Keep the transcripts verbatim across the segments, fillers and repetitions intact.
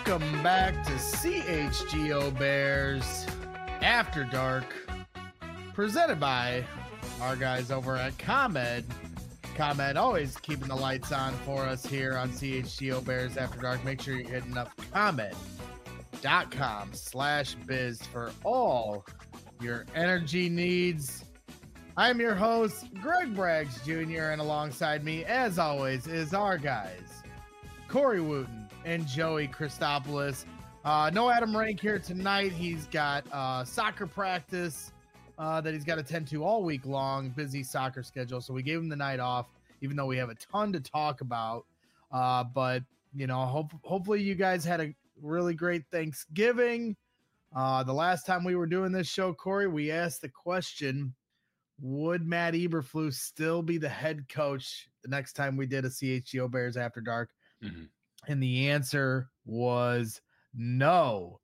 Welcome back to C H G O Bears After Dark, presented by our guys over at ComEd. ComEd always keeping the lights on for us here on C H G O Bears After Dark. Make sure you're hitting up ComEd.com slash biz for all your energy needs. I'm your host, Greg Braggs Junior, and alongside me, as always, is our guys, Corey Wooten and Joey Christopoulos. Uh, no Adam Rank here tonight. He's got uh, soccer practice uh, that he's got to attend to all week long, busy soccer schedule. So we gave him the night off, even though we have a ton to talk about. Uh, but, you know, hope, hopefully you guys had a really great Thanksgiving. Uh, the last time we were doing this show, Corey, we asked the question, would Matt Eberflus still be the head coach the next time we did a C H G O Bears After Dark? Mm-hmm. And the answer was no.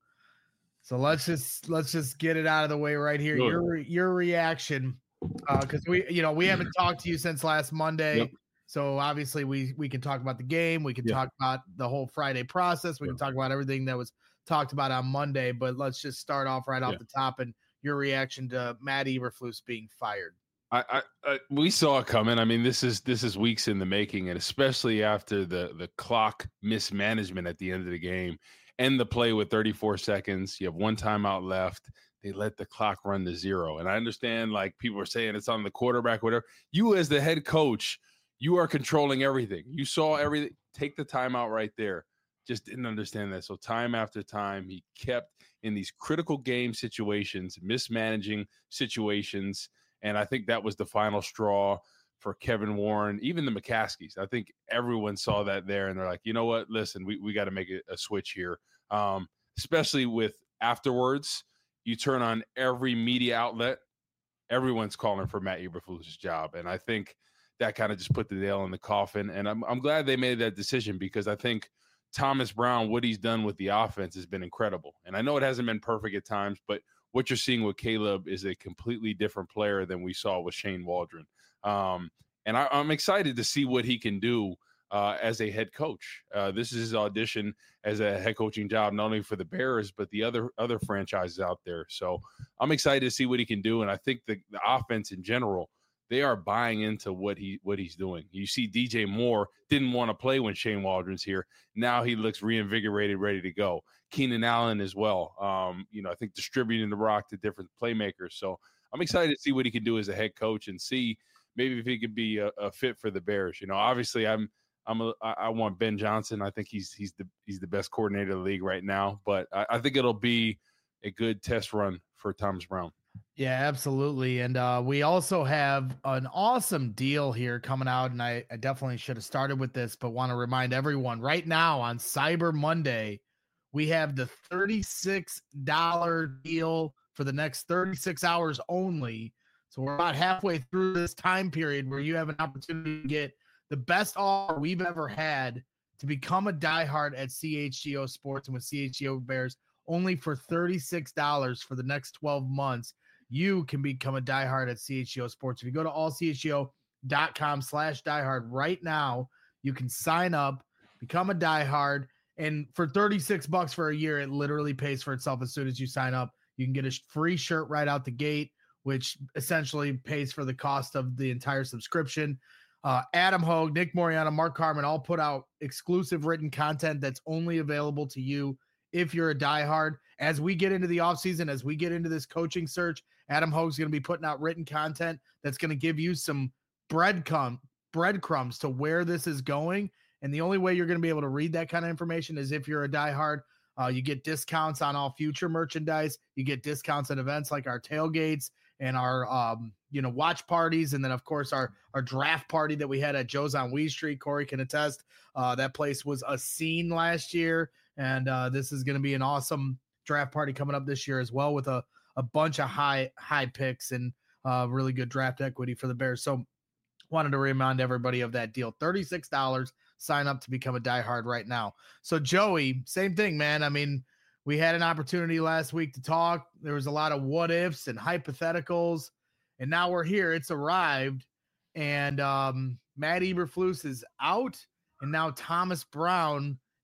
So let's just let's just get it out of the way right here. Good. Your your reaction, because uh, we you know we haven't talked to you since last Monday. Yep. So obviously we we can talk about the game. We can yep. talk about the whole Friday process. We yep. can talk about everything that was talked about on Monday. But let's just start off right off yeah. the top and your reaction to Matt Eberflus being fired. I, I, I we saw it coming. I mean, this is this is weeks in the making, and especially after the the clock mismanagement at the end of the game, end the play with thirty-four seconds. You have one timeout left. They let the clock run to zero. And I understand, like, people are saying it's on the quarterback, whatever. You as the head coach, you are controlling everything. You saw everything. Take the timeout right there. Just didn't understand that. So time after time, he kept in these critical game situations, mismanaging situations. And I think that was the final straw for Kevin Warren, even the McCaskies. I think everyone saw that there, and they're like, you know what? Listen, we, we got to make a, a switch here, um, especially with afterwards. You turn on every media outlet, everyone's calling for Matt Eberflus' job. And I think that kind of just put the nail in the coffin. And I'm, I'm glad they made that decision, because I think Thomas Brown, what he's done with the offense has been incredible. And I know it hasn't been perfect at times, but what you're seeing with Caleb is a completely different player than we saw with Shane Waldron. Um, and I, I'm excited to see what he can do uh, as a head coach. Uh, this is his audition as a head coaching job, not only for the Bears, but the other other franchises out there. So I'm excited to see what he can do. And I think the, the offense in general, they are buying into what he what he's doing. You see D J Moore didn't want to play when Shane Waldron's here. Now he looks reinvigorated, ready to go. Keenan Allen as well. Um, you know, I think distributing the rock to different playmakers. So I'm excited to see what he can do as a head coach and see maybe if he could be a, a fit for the Bears. You know, obviously I'm I'm a, I want Ben Johnson. I think he's he's the he's the best coordinator of the league right now. But I, I think it'll be a good test run for Thomas Brown. Yeah, absolutely. And uh, we also have an awesome deal here coming out, and I, I definitely should have started with this, but want to remind everyone right now on Cyber Monday, we have the thirty-six dollars deal for the next thirty-six hours only. So we're about halfway through this time period where you have an opportunity to get the best offer we've ever had to become a diehard at C H G O Sports and with C H G O Bears only for thirty-six dollars for the next twelve months. You can become a diehard at C H G O Sports. If you go to all C H G O dot com slash diehard right now, you can sign up, become a diehard, and for thirty-six bucks for a year, it literally pays for itself as soon as you sign up. You can get a free shirt right out the gate, which essentially pays for the cost of the entire subscription. Uh, Adam Hogue, Nick Moriana, Mark Carman all put out exclusive written content that's only available to you if you're a diehard. As we get into the offseason, as we get into this coaching search, Adam Hogue's going to be putting out written content that's going to give you some breadcrumb, breadcrumbs to where this is going. And the only way you're going to be able to read that kind of information is if you're a diehard. Uh, you get discounts on all future merchandise. You get discounts at events like our tailgates and our, um, you know, watch parties. And then, of course, our, our draft party that we had at Joe's on Wee Street. Corey can attest. Uh, that place was a scene last year. And uh, this is going to be an awesome draft party coming up this year as well, with a, a bunch of high, high picks and uh, really good draft equity for the Bears. So wanted to remind everybody of that deal. thirty-six dollars, sign up to become a diehard right now. So Joey, same thing, man. I mean, we had an opportunity last week to talk. There was a lot of what ifs and hypotheticals, and now we're here. It's arrived, and um, Matt Eberflus is out, and now Thomas Brown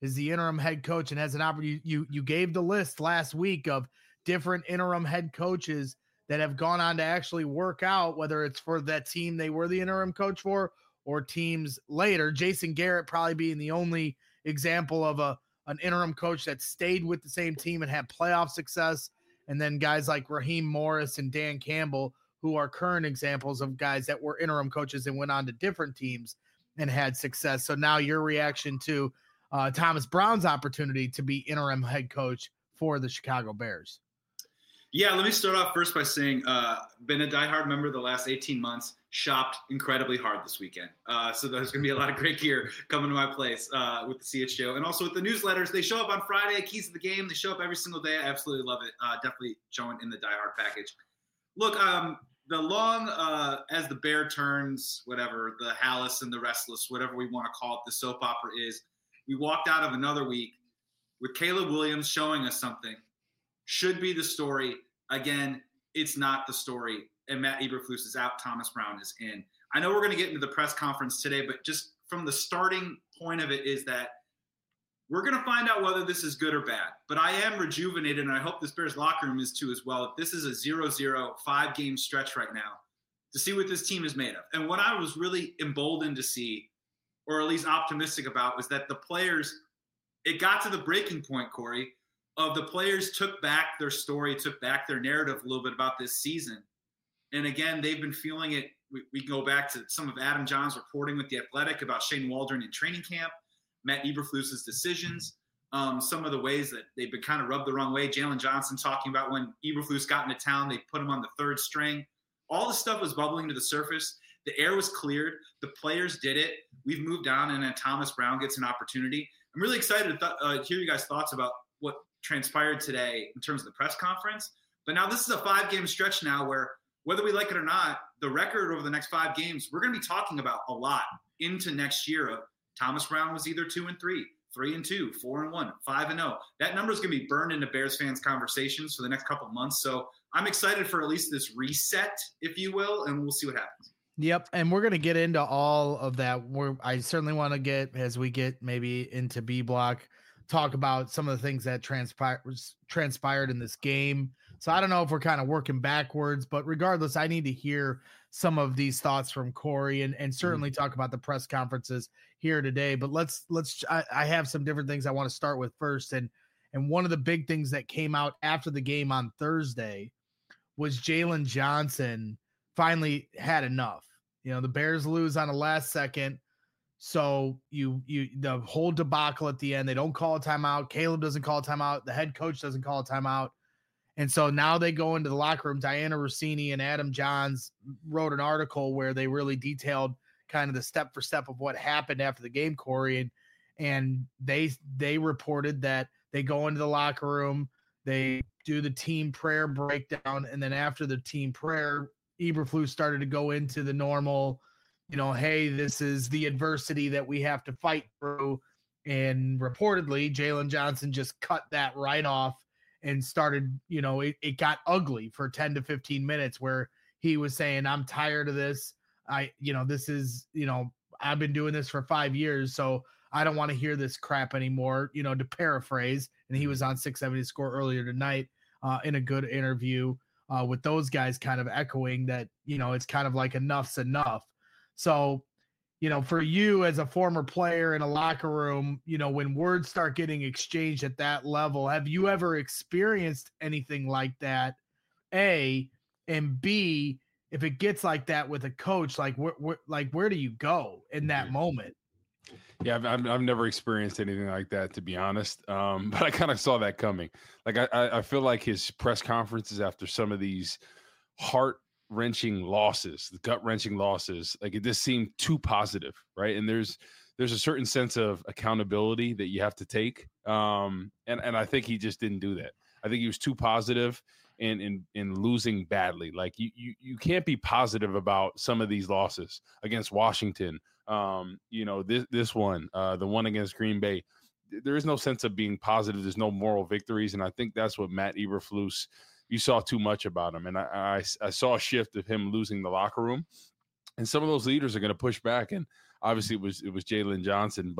is the interim head coach and has an opportunity. You, you gave the list last week of different interim head coaches that have gone on to actually work out, whether it's for that team they were the interim coach for or teams later. Jason Garrett probably being the only example of a an interim coach that stayed with the same team and had playoff success. And then guys like Raheem Morris and Dan Campbell, who are current examples of guys that were interim coaches and went on to different teams and had success. So now your reaction to uh, Thomas Brown's opportunity to be interim head coach for the Chicago Bears. Yeah, let me start off first by saying, uh, been a diehard member the last eighteen months, shopped incredibly hard this weekend. Uh, so there's going to be a lot of great gear coming to my place uh, with the C H show. And also with the newsletters, they show up on Friday, keys to the game. They show up every single day. I absolutely love it. Uh, definitely showing in the diehard package. Look, um, the long, uh, as the bear turns, whatever, the Hallis and the Restless, whatever we want to call it, the soap opera is, we walked out of another week with Caleb Williams showing us something. Should be the story. Again, it's not the story. And Matt Eberflus is out. Thomas Brown is in. I know we're going to get into the press conference today, but just from the starting point of it is that we're going to find out whether this is good or bad. But I am rejuvenated, and I hope this Bears locker room is too as well. If this is a zero zero, five-game stretch right now, to see what this team is made of. And what I was really emboldened to see, or at least optimistic about, was that the players, it got to the breaking point, Corey, of the players took back their story, took back their narrative a little bit about this season. And again, they've been feeling it. We, we go back to some of Adam John's reporting with The Athletic about Shane Waldron in training camp, Matt Eberflus's decisions, um, some of the ways that they've been kind of rubbed the wrong way. Jalen Johnson talking about when Eberflus got into town, they put him on the third string. All this stuff was bubbling to the surface. The air was cleared. The players did it. We've moved on, and then Thomas Brown gets an opportunity. I'm really excited to th- uh, hear you guys' thoughts about what transpired today in terms of the press conference. But now this is a five-game stretch now where, whether we like it or not, the record over the next five games, we're going to be talking about a lot into next year. Of Thomas Brown was either two and three, three and two, four and one, five and oh. That number is going to be burned into Bears fans' conversations for the next couple of months. So I'm excited for at least this reset, if you will, and we'll see what happens. Yep, and we're going to get into all of that. We're, I certainly want to get, as we get maybe into B block, talk about some of the things that transpired transpired in this game. So I don't know if we're kind of working backwards, but regardless, I need to hear some of these thoughts from Corey and, and certainly mm-hmm. talk about the press conferences here today. But let's let's I, I have some different things I want to start with first. And and one of the big things that came out after the game on Thursday was Jalen Johnson finally had enough. You know, the Bears lose on the last second. So you, you, the whole debacle at the end, they don't call a timeout. Caleb doesn't call a timeout. The head coach doesn't call a timeout. And so now they go into the locker room. Diana Rossini and Adam Johns wrote an article where they really detailed kind of the step for step of what happened after the game, Corey. And, and they, they reported that they go into the locker room, they do the team prayer breakdown. And then after the team prayer, Eberflus started to go into the normal, you know, hey, this is the adversity that we have to fight through. And reportedly, Jalen Johnson just cut that right off and started, you know, it, it got ugly for ten to fifteen minutes where he was saying, I'm tired of this. I, you know, this is, you know, I've been doing this for five years, so I don't want to hear this crap anymore, you know, to paraphrase. And he was on six seventy Score earlier tonight uh, in a good interview uh, with those guys kind of echoing that, you know, it's kind of like enough's enough. So, you know, for you as a former player in a locker room, you know, when words start getting exchanged at that level, have you ever experienced anything like that? A, and B, if it gets like that with a coach, like where, where like where do you go in that moment? Yeah, I've, I've I've never experienced anything like that, to be honest. Um, but I kind of saw that coming. Like I I feel like his press conferences after some of these heart wrenching losses, the gut wrenching losses, like it just seemed too positive, right? And there's there's a certain sense of accountability that you have to take, um, and and I think he just didn't do that. I think he was too positive in in in losing badly. Like you you you can't be positive about some of these losses against Washington. Um, you know this this one, uh, the one against Green Bay. There is no sense of being positive. There's no moral victories, and I think that's what Matt Eberflus. You saw too much about him. And I, I, I saw a shift of him losing the locker room. And some of those leaders are going to push back. And obviously it was it was Jalen Johnson. But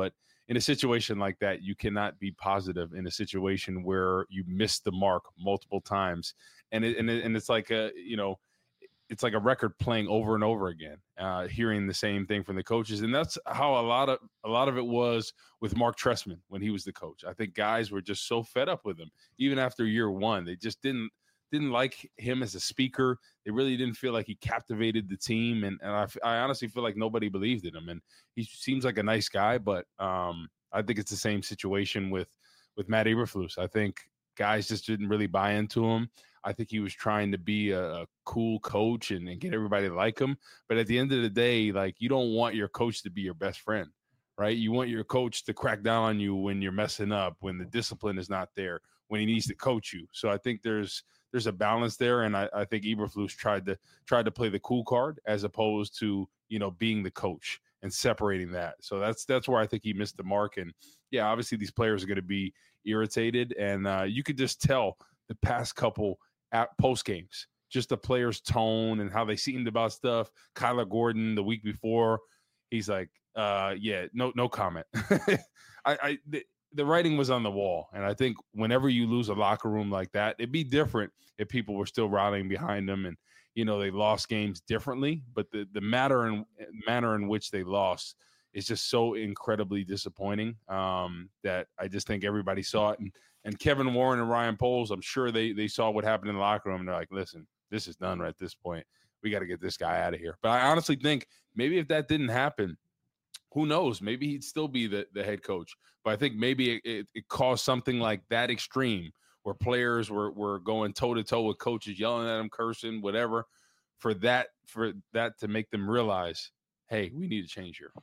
in a situation like that, you cannot be positive in a situation where you missed the mark multiple times. And it, and it, and it's like a, you know, it's like a record playing over and over again, uh, hearing the same thing from the coaches. And that's how a lot of, a lot of it was with Mark Trestman when he was the coach. I think guys were just so fed up with him, even after year one. They just didn't, didn't like him as a speaker. They really didn't feel like he captivated the team. And, and I, I honestly feel like nobody believed in him. And he seems like a nice guy, but um, I think it's the same situation with, with Matt Eberflus. I think guys just didn't really buy into him. I think he was trying to be a, a cool coach and, and get everybody to like him. But at the end of the day, like, you don't want your coach to be your best friend, right? You want your coach to crack down on you when you're messing up, when the discipline is not there, when he needs to coach you. So I think there's there's a balance there, and I, I think Eberflus tried to tried to play the cool card as opposed to, you know, being the coach and separating that. So that's that's where I think he missed the mark. And yeah, obviously these players are going to be irritated, and uh, you could just tell the past couple at post games, just the players' tone and how they seemed about stuff. Kyler Gordon the week before, he's like, uh, yeah, no, no comment. I, I the, the writing was on the wall. And I think whenever you lose a locker room like that, it'd be different if people were still rallying behind them and, you know, they lost games differently, but the, the matter and manner in which they lost is just so incredibly disappointing um, that I just think everybody saw it. And, and Kevin Warren and Ryan Poles, I'm sure they they saw what happened in the locker room. And they're like, listen, this is done right at this point. We got to get this guy out of here. But I honestly think maybe if that didn't happen, who knows? Maybe he'd still be the, the head coach. But I think maybe it, it, it caused something like that extreme where players were, were going toe-to-toe with coaches, yelling at them, cursing, whatever, for that for that to make them realize, hey, we need to change here.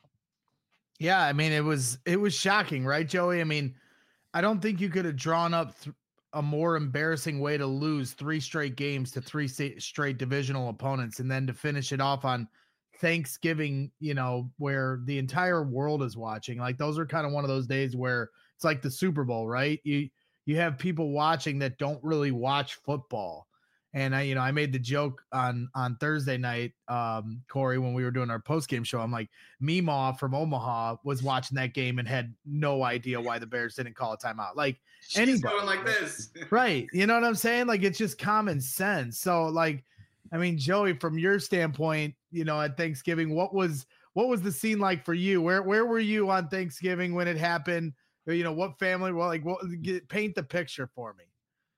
Yeah, I mean, it was it was shocking, right, Joey? I mean, I don't think you could have drawn up th- a more embarrassing way to lose three straight games to three st- straight divisional opponents, and then to finish it off on Thanksgiving, you know, where the entire world is watching. Like, those are kind of one of those days where it's like the Super Bowl, right? You you have people watching that don't really watch football. And I, you know, I made the joke on on Thursday night, um, Corey, when we were doing our post game show. I'm like, Meemaw from Omaha was watching that game and had no idea why the Bears didn't call a timeout. Like, She's anybody, going like this, right? You know what I'm saying? Like, it's just common sense. So, like, I mean, Joey, from your standpoint, you know, at Thanksgiving, what was what was the scene like for you? Where where were you on Thanksgiving when it happened? Or, you know, what family? Well, like, what? Get, paint the picture for me.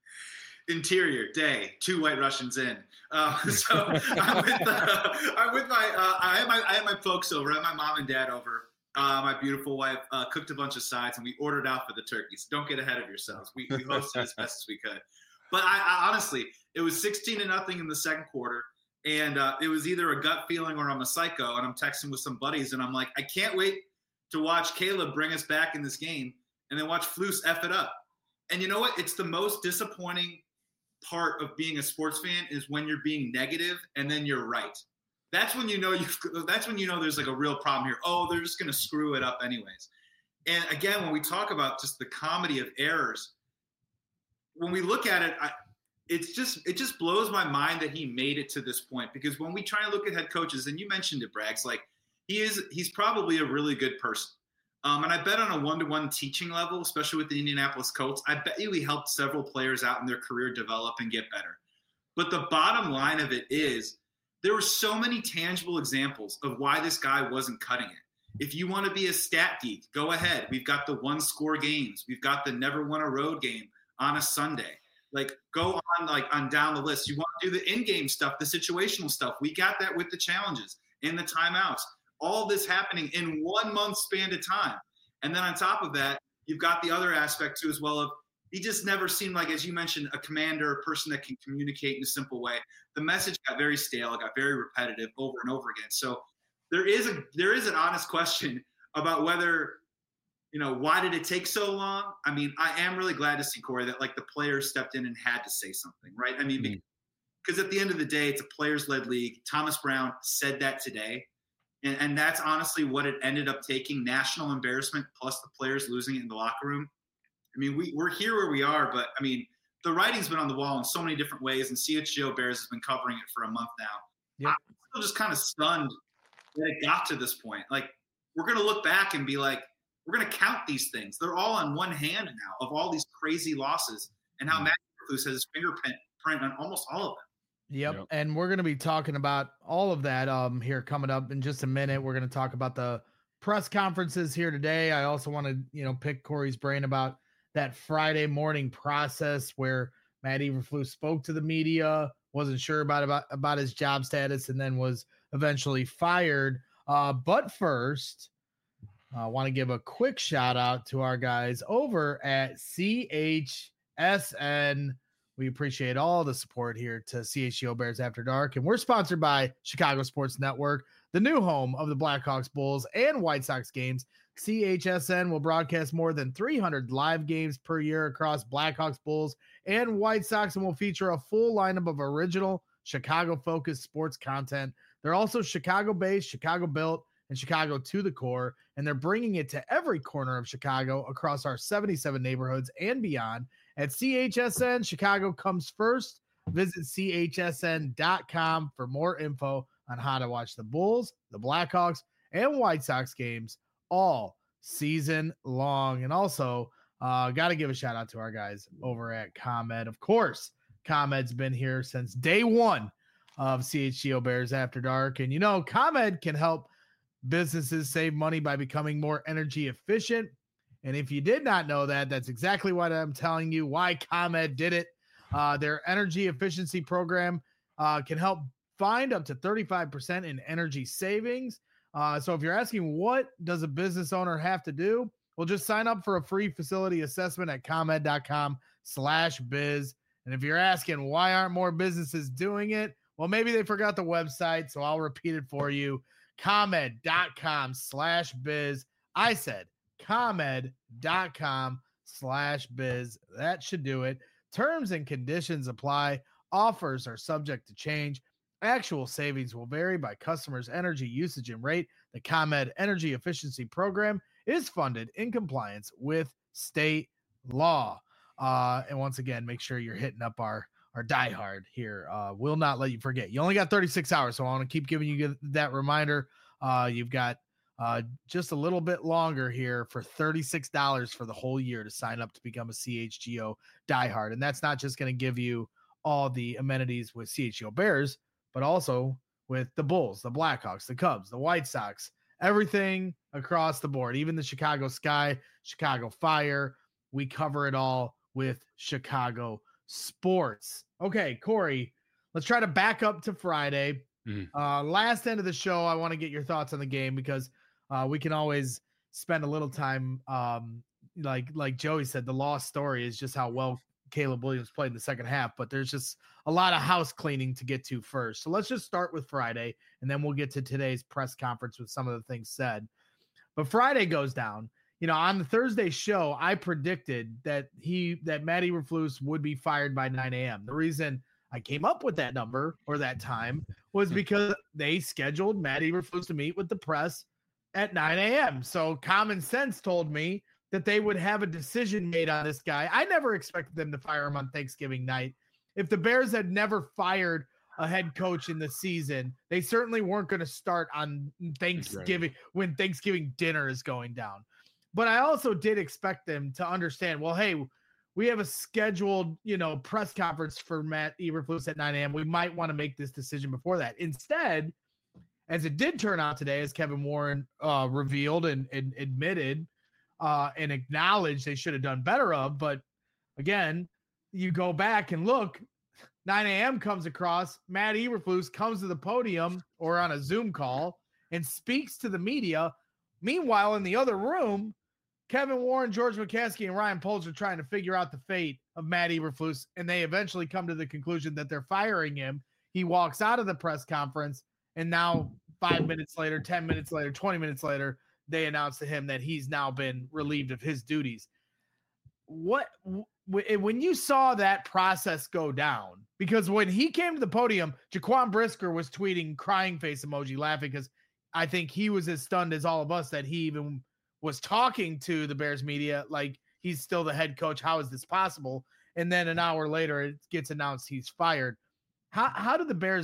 Interior day, two white Russians in. Uh, so I'm with, uh, I'm with my, uh, I had my, I had my folks over. I had my mom and dad over. Uh, my beautiful wife uh, cooked a bunch of sides, and we ordered out for the turkeys. Don't get ahead of yourselves. We, we hosted as best as we could. But I, I honestly, it was sixteen to nothing in the second quarter, and uh, it was either a gut feeling or I'm a psycho. And I'm texting with some buddies, and I'm like, I can't wait to watch Caleb bring us back in this game, and then watch Flus F it up. And you know what? It's the most disappointing part of being a sports fan is when you're being negative and then you're right. That's when you know you that's when you know there's like a real problem here. Oh, they're just going to screw it up anyways. And again, when we talk about just the comedy of errors, when we look at it, I, it's just it just blows my mind that he made it to this point, because when we try and look at head coaches, and you mentioned it, Braggs, like he is he's probably a really good person. Um, and I bet on a one-to-one teaching level, especially with the Indianapolis Colts, I bet you he helped several players out in their career develop and get better. But the bottom line of it is there were so many tangible examples of why this guy wasn't cutting it. If you want to be a stat geek, go ahead. We've got the one-score games. We've got the never won a road game on a Sunday. Like, go on like on down the list. You want to do the in-game stuff, the situational stuff. We got that with the challenges and the timeouts. All this happening in one month span of time. And then on top of that, you've got the other aspect too as well of he just never seemed like, as you mentioned, a commander, a person that can communicate in a simple way. The message got very stale, it got very repetitive over and over again. So there is a there is an honest question about whether, you know, why did it take so long? I mean, I am really glad to see, Corey, that like the players stepped in and had to say something, right? I mean, mm-hmm. because at the end of the day, it's a players-led league. Thomas Brown said that today. And, and that's honestly what it ended up taking, national embarrassment plus the players losing it in the locker room. I mean, we, we're here where we are, but, I mean, the writing's been on the wall in so many different ways, and C H G O Bears has been covering it for a month now. Yep. I'm still just kind of stunned that it got to this point. Like, we're going to look back and be like, we're going to count these things. They're all on one hand now of all these crazy losses and how Matt Eberflus has his fingerprint print on almost all of them. Yep. Yep. And we're going to be talking about all of that um here coming up in just a minute. We're going to talk about the press conferences here today. I also want to, you know, pick Corey's brain about that Friday morning process where Matt Eberflus spoke to the media, wasn't sure about, about, about his job status, and then was eventually fired. Uh, but first, I want to give a quick shout out to our guys over at C H S N. We appreciate all the support here to C H G O Bears After Dark. And we're sponsored by Chicago Sports Network, the new home of the Blackhawks, Bulls, and White Sox games. C H S N will broadcast more than three hundred live games per year across Blackhawks, Bulls, and White Sox, and will feature a full lineup of original Chicago-focused sports content. They're also Chicago-based, Chicago-built, and Chicago to the core, and they're bringing it to every corner of Chicago across our seventy-seven neighborhoods and beyond. At C H S N, Chicago comes first. Visit C H S N dot com for more info on how to watch the Bulls, the Blackhawks, and White Sox games all season long. And also, uh, got to give a shout out to our guys over at ComEd. Of course, ComEd's been here since day one of C H G O Bears After Dark. And, you know, ComEd can help businesses save money by becoming more energy efficient. And if you did not know that, that's exactly what I'm telling you, why ComEd did it. Uh, their energy efficiency program uh, can help find up to thirty-five percent in energy savings. Uh, so if you're asking what does a business owner have to do, well, just sign up for a free facility assessment at ComEd dot com slash biz. And if you're asking why aren't more businesses doing it, well, maybe they forgot the website, so I'll repeat it for you. ComEd dot com slash biz. I said ComEd dot com slash biz. That should do it. Terms and conditions apply. Offers are subject to change. Actual savings will vary by customers' energy usage and rate. The ComEd Energy Efficiency Program is funded in compliance with state law. Uh, and once again, make sure you're hitting up our our diehard here. Uh, will not let you forget. You only got thirty-six hours, so I want to keep giving you that reminder. Uh, you've got uh, just a little bit longer here for thirty-six dollars for the whole year to sign up to become a C H G O diehard. And that's not just going to give you all the amenities with C H G O Bears, but also with the Bulls, the Blackhawks, the Cubs, the White Sox, everything across the board, even the Chicago Sky, Chicago Fire. We cover it all with Chicago Sports. Okay, Corey, let's try to back up to Friday. Mm-hmm. Uh, last end of the show, I want to get your thoughts on the game because uh, we can always spend a little time. Um, like like Joey said, the lost story is just how well Caleb Williams played in the second half, but there's just a lot of house cleaning to get to first. So let's just start with Friday, and then we'll get to today's press conference with some of the things said. But Friday goes down. You know, on the Thursday show, I predicted that he that Matt Eberflus would be fired by nine a.m. The reason I came up with that number or that time was because they scheduled Matt Eberflus to meet with the press at nine a.m. So common sense told me that they would have a decision made on this guy. I never expected them to fire him on Thanksgiving night. If the Bears had never fired a head coach in the season, they certainly weren't going to start on Thanksgiving when Thanksgiving dinner is going down. But I also did expect them to understand, well, hey, we have a scheduled, you know, press conference for Matt Eberflus at nine a.m. We might want to make this decision before that. Instead, as it did turn out today, as Kevin Warren uh, revealed and, and admitted uh, and acknowledged they should have done better of. But again, you go back and look, nine a.m. comes across, Matt Eberflus comes to the podium or on a Zoom call and speaks to the media. Meanwhile, in the other room, Kevin Warren, George McCaskey, and Ryan Poles are trying to figure out the fate of Matt Eberflus, and they eventually come to the conclusion that they're firing him. He walks out of the press conference, and now five minutes later, ten minutes later, twenty minutes later, they announce to him that he's now been relieved of his duties. What when you saw that process go down, because when he came to the podium, Jaquan Brisker was tweeting crying face emoji, laughing, because I think he was as stunned as all of us that he even was talking to the Bears media like he's still the head coach. How is this possible? And then an hour later, it gets announced he's fired. How how did the Bears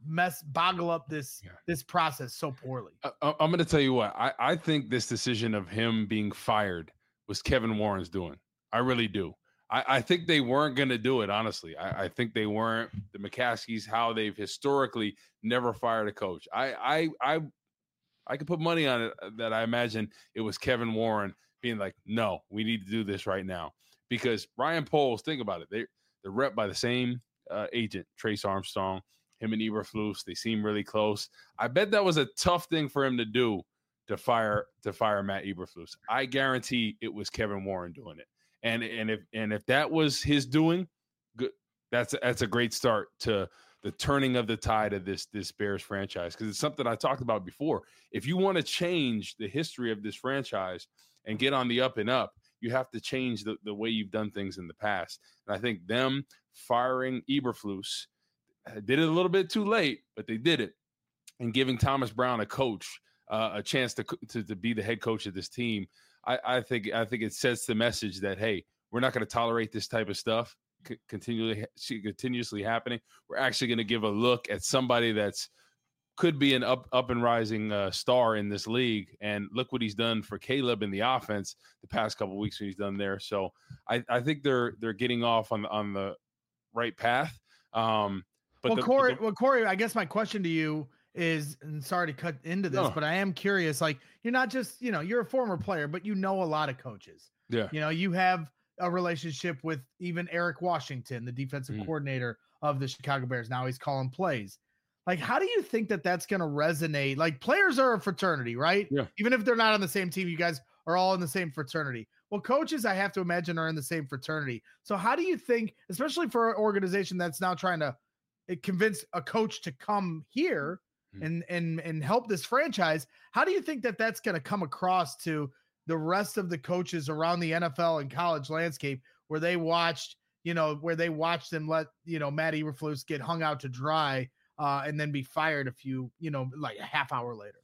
mess boggle up this yeah. this process so poorly. I, I'm going to tell you what I, I think this decision of him being fired was Kevin Warren's doing. I really do. I, I think they weren't going to do it. Honestly, I, I think they weren't. The McCaskies, how they've historically never fired a coach. I I I I could put money on it that I imagine it was Kevin Warren being like, no, we need to do this right now. Because Ryan Poles, think about it. They, they're rep by the same uh, agent, Trace Armstrong, him and Eberflus. They seem really close. I bet that was a tough thing for him to do to fire to fire Matt Eberflus. I guarantee it was Kevin Warren doing it. And and if and if that was his doing, good. That's that's a great start to the turning of the tide of this this Bears franchise, because it's something I talked about before. If you want to change the history of this franchise and get on the up and up, you have to change the, the way you've done things in the past. And I think them firing Eberflus did it a little bit too late, but they did it. And giving Thomas Brown a coach, uh, a chance to, to to be the head coach of this team, I, I think I think it sets the message that, hey, we're not going to tolerate this type of stuff c- continually continuously happening. We're actually going to give a look at somebody that's could be an up up and rising uh, star in this league. And look what he's done for Caleb in the offense the past couple of weeks when he's done there. So I, I think they're they're getting off on the on the right path. Um, but well, the, Corey, the, well, Corey, I guess my question to you is, and sorry to cut into this, no. but I am curious. Like, you're not just, you know, you're a former player, but you know a lot of coaches. Yeah. You know, you have a relationship with even Eric Washington, the defensive mm. coordinator of the Chicago Bears. Now he's calling plays. Like, how do you think that that's going to resonate? Like, players are a fraternity, right? Yeah. Even if they're not on the same team, you guys are all in the same fraternity. Well, coaches, I have to imagine, are in the same fraternity. So how do you think, especially for an organization that's now trying to convince a coach to come here mm. and, and, and help this franchise, how do you think that that's going to come across to the rest of the coaches around the N F L and college landscape, where they watched, you know, where they watched and let, you know, Matt Eberflus get hung out to dry uh, and then be fired a few, you know, like a half hour later?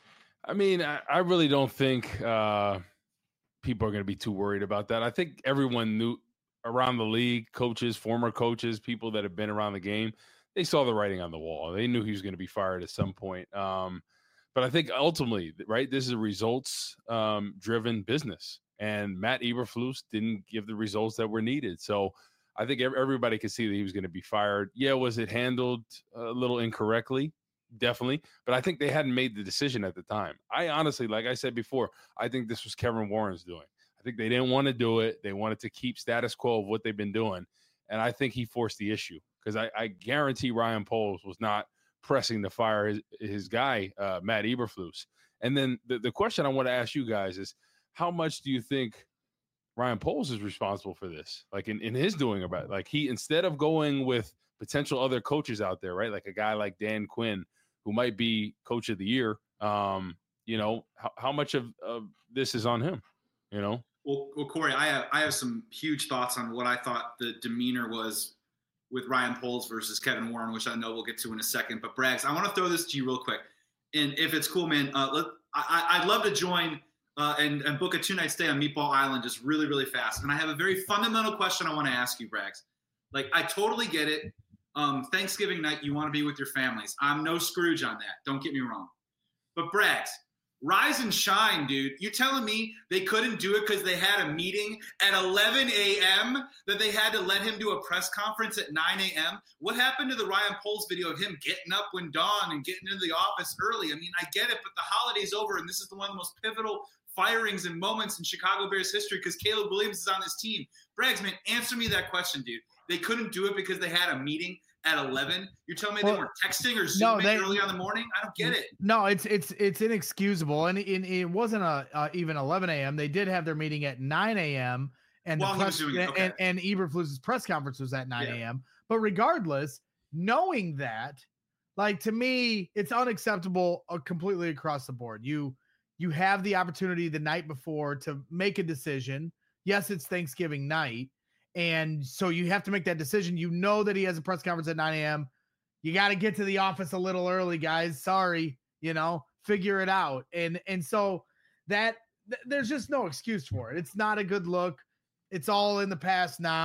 I mean, I, I really don't think uh, people are going to be too worried about that. I think everyone knew around the league, coaches, former coaches, people that have been around the game, they saw the writing on the wall. They knew he was going to be fired at some point. Um, But I think ultimately, right, this is a results-driven um, business, and Matt Eberflus didn't give the results that were needed. So I think everybody could see that he was going to be fired. Yeah, was it handled a little incorrectly? Definitely. But I think they hadn't made the decision at the time. I honestly, like I said before, I think this was Kevin Warren's doing. I think they didn't want to do it. They wanted to keep status quo of what they've been doing, and I think he forced the issue, because I, I guarantee Ryan Poles was not pressing to fire his, his guy, uh, Matt Eberflus. And then the, the question I want to ask you guys is, how much do you think Ryan Poles is responsible for this? Like in, in his doing about it? Like he, instead of going with potential other coaches out there, right? Like a guy like Dan Quinn, who might be coach of the year, um, you know, how, how much of, of this is on him, you know? Well, well, Corey, I have, I have some huge thoughts on what I thought the demeanor was with Ryan Poles versus Kevin Warren, which I know we'll get to in a second. But Braggs, I want to throw this to you real quick. And if it's cool, man, uh, let, I, I'd love to join uh, and, and book a two-night stay on Meatball Island just really, really fast. And I have a very fundamental question I want to ask you, Braggs. Like, I totally get it. Um, Thanksgiving night, you want to be with your families. I'm no Scrooge on that. Don't get me wrong. But Braggs, rise and shine, dude. You telling me they couldn't do it because they had a meeting at eleven a.m., that they had to let him do a press conference at nine a.m.? What happened to the Ryan Poles video of him getting up when dawn and getting into the office early? I mean, I get it, but the holiday's over, and this is the one of the most pivotal firings and moments in Chicago Bears history because Caleb Williams is on this team. Braggs, man, answer me that question, dude. They couldn't do it because they had a meeting at eleven? You're telling me well, they were texting or Zooming no, they, early on the morning? I don't get it. No, it's it's it's inexcusable, and it, it wasn't a uh, even eleven a.m. They did have their meeting at nine a.m. and While the press, he was doing it, okay. and, and Eberflus's press conference was at nine a.m. Yeah. But regardless, knowing that, like, to me, it's unacceptable uh, completely across the board. You you have the opportunity the night before to make a decision. Yes, it's Thanksgiving night. And so you have to make that decision. You know that he has a press conference at nine a.m. You got to get to the office a little early, guys. Sorry, you know, figure it out. And and so that th- there's just no excuse for it. It's not a good look. It's all in the past now.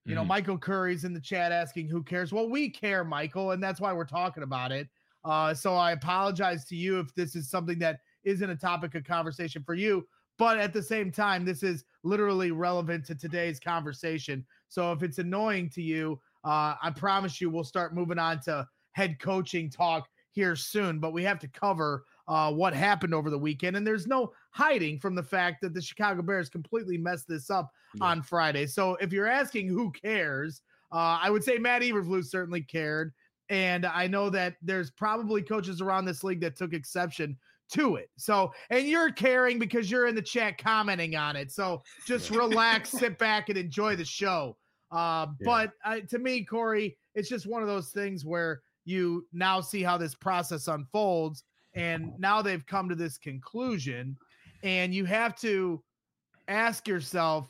You know, mm-hmm. Michael Curry's in the chat asking who cares. Well, we care, Michael, and that's why we're talking about it. Uh, so I apologize to you if this is something that isn't a topic of conversation for you. But at the same time, this is literally relevant to today's conversation. So if it's annoying to you, uh, I promise you we'll start moving on to head coaching talk here soon. But we have to cover uh, what happened over the weekend. And there's no hiding from the fact that the Chicago Bears completely messed this up yeah. on Friday. So if you're asking who cares, uh, I would say Matt Eberflus certainly cared. And I know that there's probably coaches around this league that took exception to it. So, and you're caring because you're in the chat commenting on it. So just yeah. relax, sit back, and enjoy the show. Uh, yeah. But uh, to me, Corey, it's just one of those things where you now see how this process unfolds. And now they've come to this conclusion. And you have to ask yourself,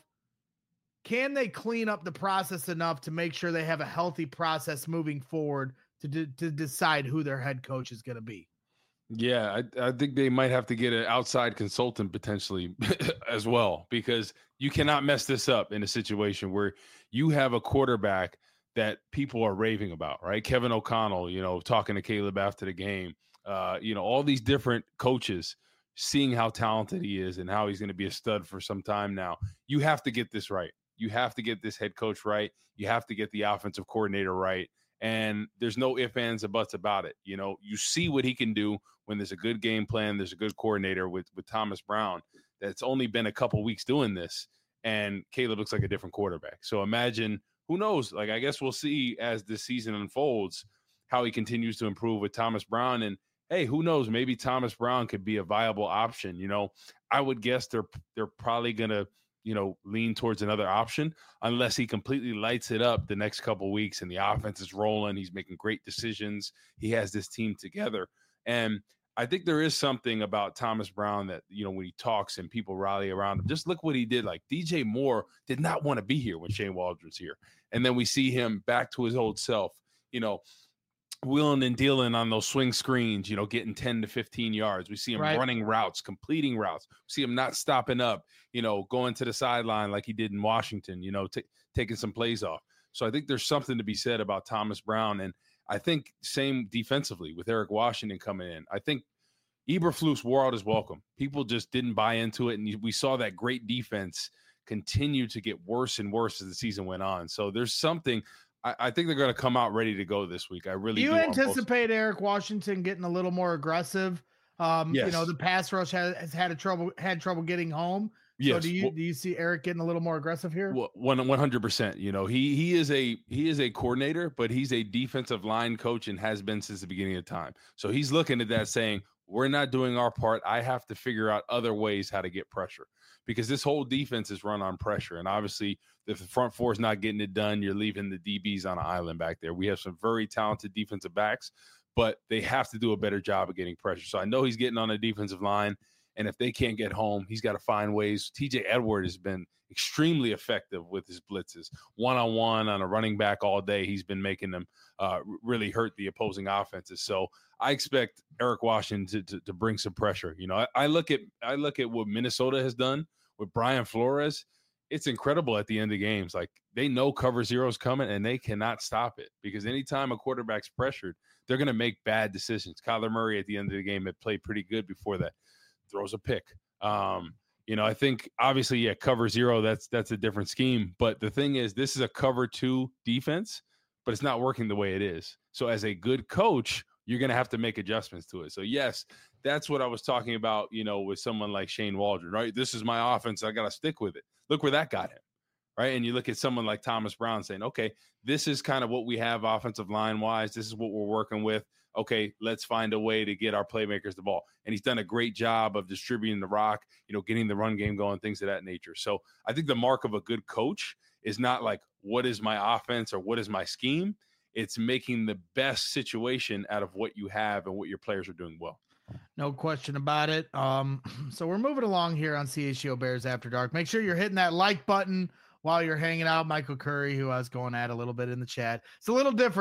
can they clean up the process enough to make sure they have a healthy process moving forward to de- to decide who their head coach is going to be? Yeah, I, I think they might have to get an outside consultant potentially as well, because you cannot mess this up in a situation where you have a quarterback that people are raving about, right? Kevin O'Connell, you know, talking to Caleb after the game, uh, you know, all these different coaches seeing how talented he is and how he's going to be a stud for some time now. You have to get this right. You have to get this head coach right. You have to get the offensive coordinator right. And there's no ifs, ands, or buts about it. You know, you see what he can do when there's a good game plan, there's a good coordinator with, with Thomas Brown that's only been a couple weeks doing this, and Caleb looks like a different quarterback. So imagine, who knows? Like, I guess we'll see as this season unfolds how he continues to improve with Thomas Brown. And, hey, who knows? Maybe Thomas Brown could be a viable option. You know, I would guess they're they're probably going to, you know, lean towards another option unless he completely lights it up the next couple of weeks and the offense is rolling. He's making great decisions. He has this team together. And I think there is something about Thomas Brown that, you know, when he talks and people rally around him, just look what he did. Like, D J Moore did not want to be here when Shane Waldron's here. And then we see him back to his old self, you know, wheeling and dealing on those swing screens, you know, getting ten to fifteen yards. We see him right. running routes, completing routes. We see him not stopping up, you know, going to the sideline like he did in Washington, you know, t- taking some plays off. So I think there's something to be said about Thomas Brown. And I think same defensively with Eric Washington coming in. I think Eberflus wore out his welcome. People just didn't buy into it. And we saw that great defense continue to get worse and worse as the season went on. So there's something – I think they're going to come out ready to go this week. I really do. You do anticipate Eric Washington getting a little more aggressive? Um, yes. You know, the pass rush has, has had a trouble had trouble getting home. Yes. So do you well, do you see Eric getting a little more aggressive here? Well, one one hundred percent. You know, he he is a he is a coordinator, but he's a defensive line coach and has been since the beginning of time. So he's looking at that saying, we're not doing our part. I have to figure out other ways how to get pressure, because this whole defense is run on pressure. And obviously, if the front four is not getting it done, you're leaving the D Bs on an island back there. We have some very talented defensive backs, but they have to do a better job of getting pressure. So I know he's getting on the defensive line, and if they can't get home, he's got to find ways. T J Edward has been extremely effective with his blitzes. One-on-one on a running back all day, he's been making them uh, really hurt the opposing offenses. So I expect Eric Washington to, to, to bring some pressure. You know, I, I look at I look at what Minnesota has done with Brian Flores. It's incredible at the end of games. Like, they know cover zero is coming and they cannot stop it, because anytime a quarterback's pressured, they're going to make bad decisions. Kyler Murray at the end of the game had played pretty good before that. Throws a pick. Um, you know, I think obviously, yeah, cover zero, that's that's a different scheme. But the thing is, this is a cover two defense, but it's not working the way it is. So as a good coach, you're going to have to make adjustments to it. So, yes, that's what I was talking about, you know, with someone like Shane Waldron, right? This is my offense. I got to stick with it. Look where that got him, right? And you look at someone like Thomas Brown saying, okay, this is kind of what we have offensive line-wise. This is what we're working with. Okay, let's find a way to get our playmakers the ball. And he's done a great job of distributing the rock, you know, getting the run game going, things of that nature. So I think the mark of a good coach is not like, what is my offense or what is my scheme? It's making the best situation out of what you have and what your players are doing well. No question about it. Um, so we're moving along here on C H G O Bears After Dark. Make sure you're hitting that like button while you're hanging out. Michael Curry, who I was going at a little bit in the chat. It's a little different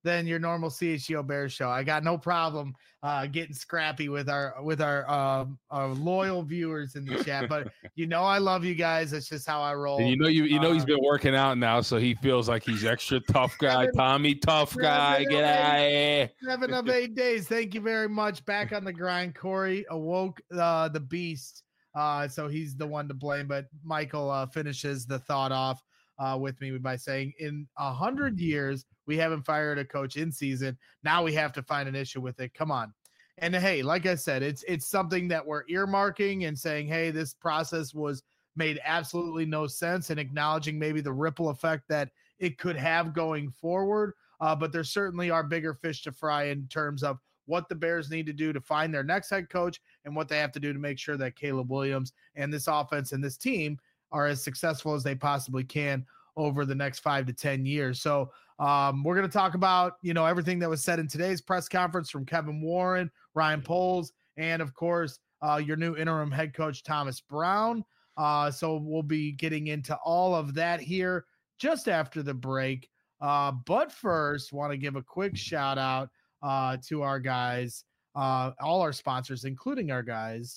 than your normal C H G O Bears show. I got no problem uh, getting scrappy with our with our, um, our loyal viewers in the chat, but you know I love you guys. It's just how I roll. And you know you you know uh, he's been working out now, so he feels like he's extra tough guy. Seven, Tommy, tough guy, get out of here. Seven of eight days. Thank you very much. Back on the grind. Corey awoke uh, the beast, uh, so he's the one to blame. But Michael uh, finishes the thought off uh, with me by saying, in a hundred years, we haven't fired a coach in season. Now we have to find an issue with it. Come on. And hey, like I said, it's it's something that we're earmarking and saying, hey, this process was made absolutely no sense, and acknowledging maybe the ripple effect that it could have going forward. Uh, but there certainly are bigger fish to fry in terms of what the Bears need to do to find their next head coach and what they have to do to make sure that Caleb Williams and this offense and this team are as successful as they possibly can over the next five to ten years. So um, we're going to talk about, you know, everything that was said in today's press conference from Kevin Warren, Ryan Poles, and of course, uh, your new interim head coach, Thomas Brown. Uh, so we'll be getting into all of that here just after the break. Uh, but first, want to give a quick shout out uh, to our guys, uh, all our sponsors, including our guys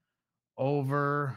over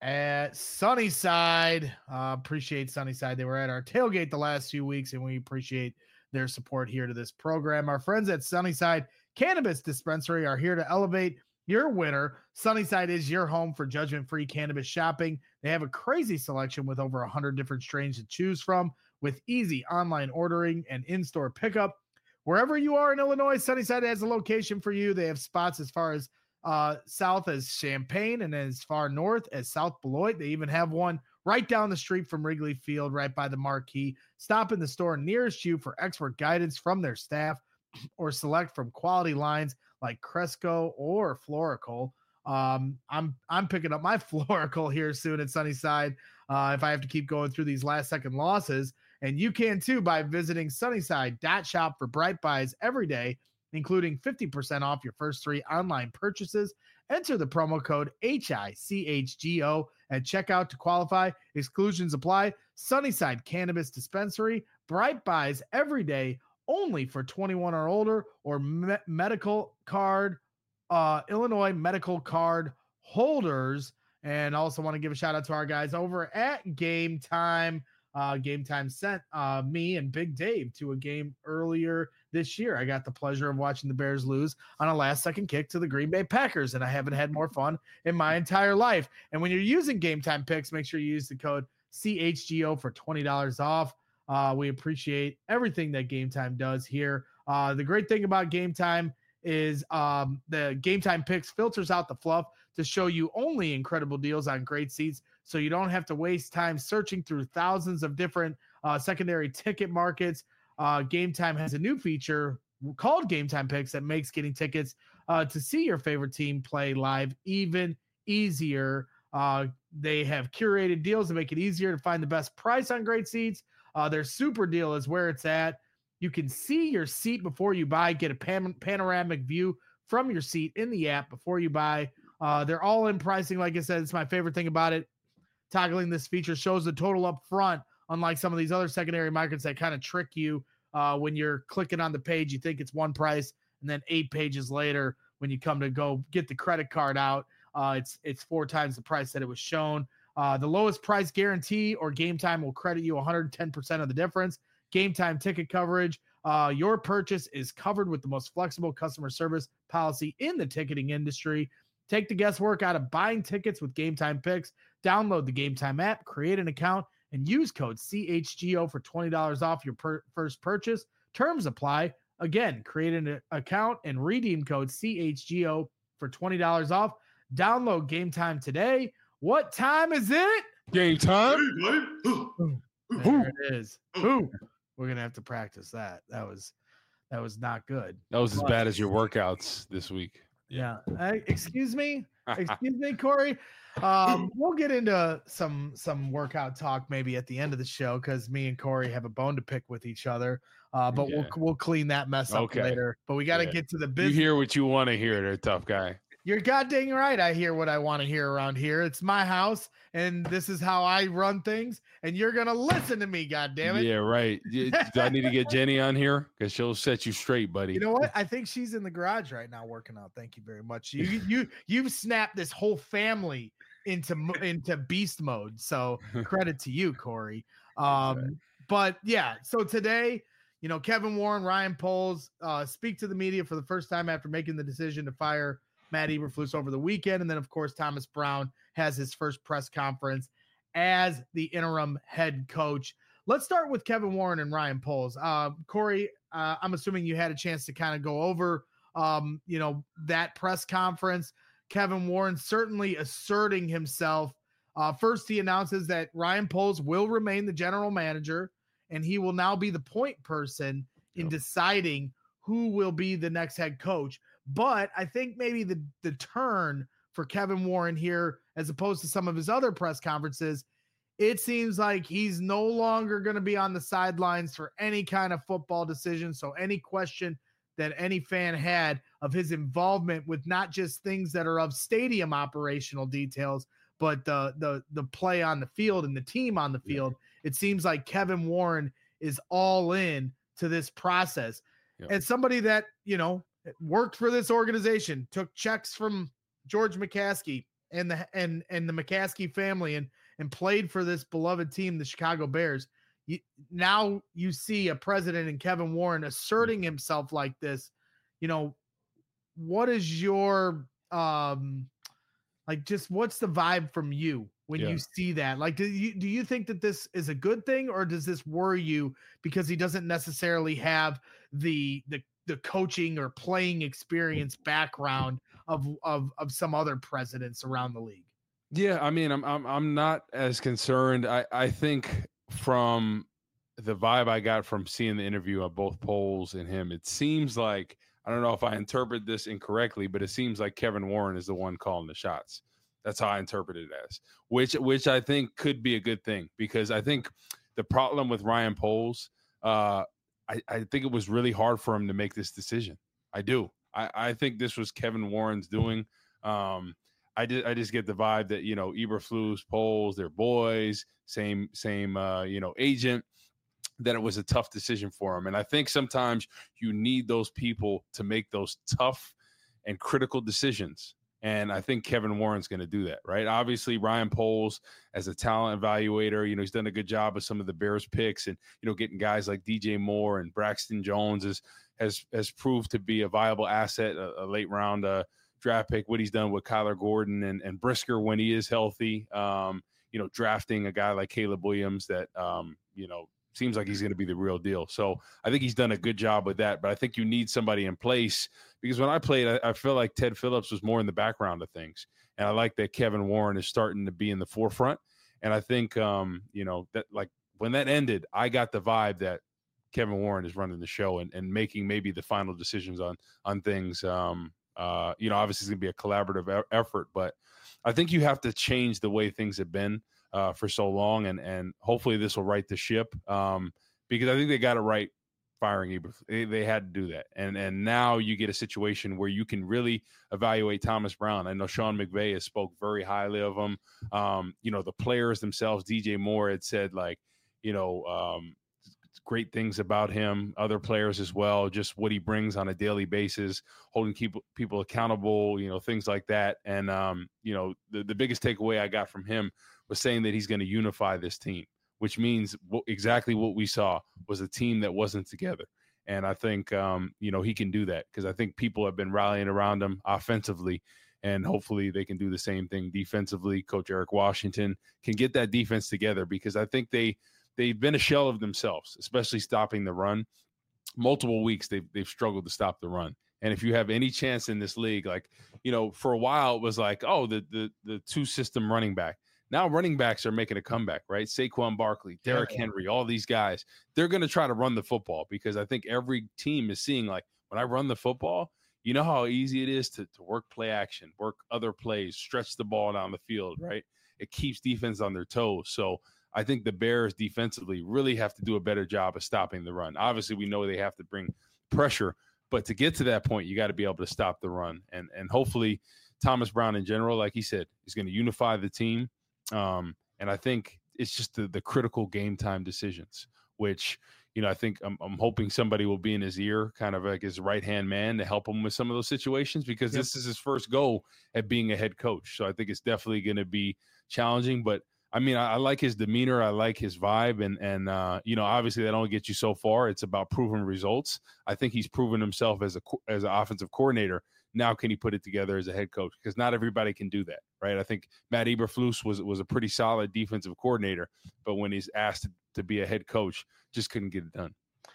at Sunnyside. Uh, appreciate Sunnyside. They were at our tailgate the last few weeks, and we appreciate their support here to this program. Our friends at Sunnyside Cannabis Dispensary are here to elevate your winter. Sunnyside is your home for judgment-free cannabis shopping. They have a crazy selection with over one hundred different strains to choose from, with easy online ordering and in-store pickup. Wherever you are in Illinois, Sunnyside has a location for you. They have spots as far as uh, south as Champaign and as far north as South Beloit. They even have one right down the street from Wrigley Field, right by the marquee. Stop in the store nearest you for expert guidance from their staff, or select from quality lines like Cresco or Florical. Um, I'm I'm picking up my Florical here soon at Sunnyside uh, if I have to keep going through these last second losses. And you can too by visiting sunnyside dot shop for bright buys every day, including fifty percent off your first three online purchases. Enter the promo code H I C H G O at checkout to qualify. Exclusions apply. Sunnyside Cannabis Dispensary, bright buys every day, only for twenty-one or older, or me- medical card, uh, Illinois medical card holders. And also want to give a shout out to our guys over at Game Time. Uh, Game Time sent uh, me and Big Dave to a game earlier this year. I got the pleasure of watching the Bears lose on a last second kick to the Green Bay Packers, and I haven't had more fun in my entire life. And when you're using Game Time picks, make sure you use the code C H G O for twenty dollars off. Uh, we appreciate everything that Game Time does here. Uh, the great thing about Game Time is um, the Game Time picks filters out the fluff to show you only incredible deals on great seats, so you don't have to waste time searching through thousands of different uh, secondary ticket markets. Uh, Game Time has a new feature called Game Time Picks that makes getting tickets uh, to see your favorite team play live even easier. Uh, they have curated deals to make it easier to find the best price on great seats. Uh, their super deal is where it's at. You can see your seat before you buy, get a pan- panoramic view from your seat in the app before you buy. Uh, they're all in pricing. Like I said, it's my favorite thing about it. Toggling this feature shows the total up front, unlike some of these other secondary markets that kind of trick you uh, when you're clicking on the page. You think it's one price, and then eight pages later, when you come to go get the credit card out, uh, it's it's four times the price that it was shown. Uh, the lowest price guarantee or Game Time will credit you one hundred ten percent of the difference. Game Time ticket coverage. Uh, your purchase is covered with the most flexible customer service policy in the ticketing industry. Take the guesswork out of buying tickets with Game Time Picks. Download the Game Time app, create an account, and use code C H G O for twenty dollars off your per- first purchase. Terms apply. Again, create an account and redeem code C H G O for twenty dollars off. Download Game Time today. What time is it? Game time. There it is. Ooh, we're going to have to practice that. That was that was not good. That was as bad as your workouts this week. Yeah. Uh, excuse me. Excuse me, Corey. Um, we'll get into some some workout talk maybe at the end of the show, because me and Corey have a bone to pick with each other. Uh, but yeah. we'll we'll clean that mess up okay. later. But we got to yeah. get to the business. You hear what you want to hear, there, tough guy. You're goddamn right. I hear what I want to hear around here. It's my house, and this is how I run things, and you're going to listen to me, goddammit. Yeah, right. Do I need to get Jenny on here? Because she'll set you straight, buddy. You know what? I think she's in the garage right now working out. Thank you very much. You you you've snapped this whole family into into beast mode. So credit to you, Corey. Um, right. But yeah, so today, you know, Kevin Warren, Ryan Poles uh, speak to the media for the first time after making the decision to fire Matt Eberflus over the weekend. And then, of course, Thomas Brown has his first press conference as the interim head coach. Let's start with Kevin Warren and Ryan Poles. Uh, Corey, uh, I'm assuming you had a chance to kind of go over, um, you know, that press conference. Kevin Warren certainly asserting himself. Uh, first, he announces that Ryan Poles will remain the general manager, and he will now be the point person in yep. deciding who will be the next head coach. But I think maybe the, the turn for Kevin Warren here, as opposed to some of his other press conferences, it seems like he's no longer going to be on the sidelines for any kind of football decision. So any question that any fan had of his involvement with not just things that are of stadium operational details, but the the the play on the field and the team on the field, yeah. it seems like Kevin Warren is all in to this process. Yeah. And somebody that, you know, worked for this organization, took checks from George McCaskey and the and and the McCaskey family, and and played for this beloved team, the Chicago Bears. You, now you see a president in Kevin Warren asserting himself like this. You know, what is your um like just what's the vibe from you when yeah. you see that? Like, do you do you think that this is a good thing, or does this worry you because he doesn't necessarily have the the the coaching or playing experience background of, of, of some other presidents around the league? Yeah. I mean, I'm, I'm, I'm not as concerned. I, I think from the vibe I got from seeing the interview of both Poles and him, it seems like, I don't know if I interpret this incorrectly, but it seems like Kevin Warren is the one calling the shots. That's how I interpret it as, which, which I think could be a good thing, because I think the problem with Ryan Poles, uh, I, I think it was really hard for him to make this decision. I do. I, I think this was Kevin Warren's doing. Um, I did. I just get the vibe that, you know, Eberflus, Poles, they're boys, same same uh, you know, agent. That it was a tough decision for him, and I think sometimes you need those people to make those tough and critical decisions. And I think Kevin Warren's going to do that, right? Obviously, Ryan Poles, as a talent evaluator, you know, he's done a good job with some of the Bears picks, and, you know, getting guys like D J Moore and Braxton Jones is, has has proved to be a viable asset, a, a late round uh, draft pick. What he's done with Kyler Gordon and, and Brisker when he is healthy, um, you know, drafting a guy like Caleb Williams that, um, you know, seems like he's going to be the real deal. So I think he's done a good job with that, but I think you need somebody in place, because when I played, I, I feel like Ted Phillips was more in the background of things. And I like that Kevin Warren is starting to be in the forefront. And I think, um, you know, that like when that ended, I got the vibe that Kevin Warren is running the show and, and making maybe the final decisions on, on things. Um, uh, you know, obviously it's going to be a collaborative e- effort, but I think you have to change the way things have been uh, for so long. And, and hopefully this will right the ship, um, because I think they got it right firing Eberflus. They, they had to do that. And, and now you get a situation where you can really evaluate Thomas Brown. I know Sean McVay has spoke very highly of him. Um, you know, the players themselves, D J Moore had said, like, you know, um, great things about him, other players as well, just what he brings on a daily basis, holding people people accountable, you know, things like that. And, um, you know, the, the biggest takeaway I got from him was saying that he's going to unify this team, which means w- exactly what we saw was a team that wasn't together. And I think, um, you know, he can do that, because I think people have been rallying around him offensively, and hopefully they can do the same thing defensively. Coach Eric Washington can get that defense together, because I think they, they've been a shell of themselves, especially stopping the run. Multiple weeks they've, they've struggled to stop the run. And if you have any chance in this league, like, you know, for a while it was like, oh, the the the two system running back. Now running backs are making a comeback, right? Saquon Barkley, Derrick yeah. Henry, all these guys, they're going to try to run the football, because I think every team is seeing, like, when I run the football, you know how easy it is to, to work play action, work other plays, stretch the ball down the field, right? It keeps defense on their toes. So I think the Bears defensively really have to do a better job of stopping the run. Obviously, we know they have to bring pressure, but to get to that point, you got to be able to stop the run. And and hopefully Thomas Brown in general, like he said, is going to unify the team. Um, and I think it's just the, the critical game time decisions, which, you know, I think I'm, I'm hoping somebody will be in his ear, kind of like his right-hand man to help him with some of those situations, because yep. this is his first go at being a head coach. So I think it's definitely going to be challenging, but I mean, I, I like his demeanor. I like his vibe. And, and uh, you know, obviously that only gets you so far. It's about proven results. I think he's proven himself as a as an offensive coordinator. Now can he put it together as a head coach? Because not everybody can do that, right? I think Matt Eberflus was was a pretty solid defensive coordinator, but when he's asked to, to be a head coach, just couldn't get it done.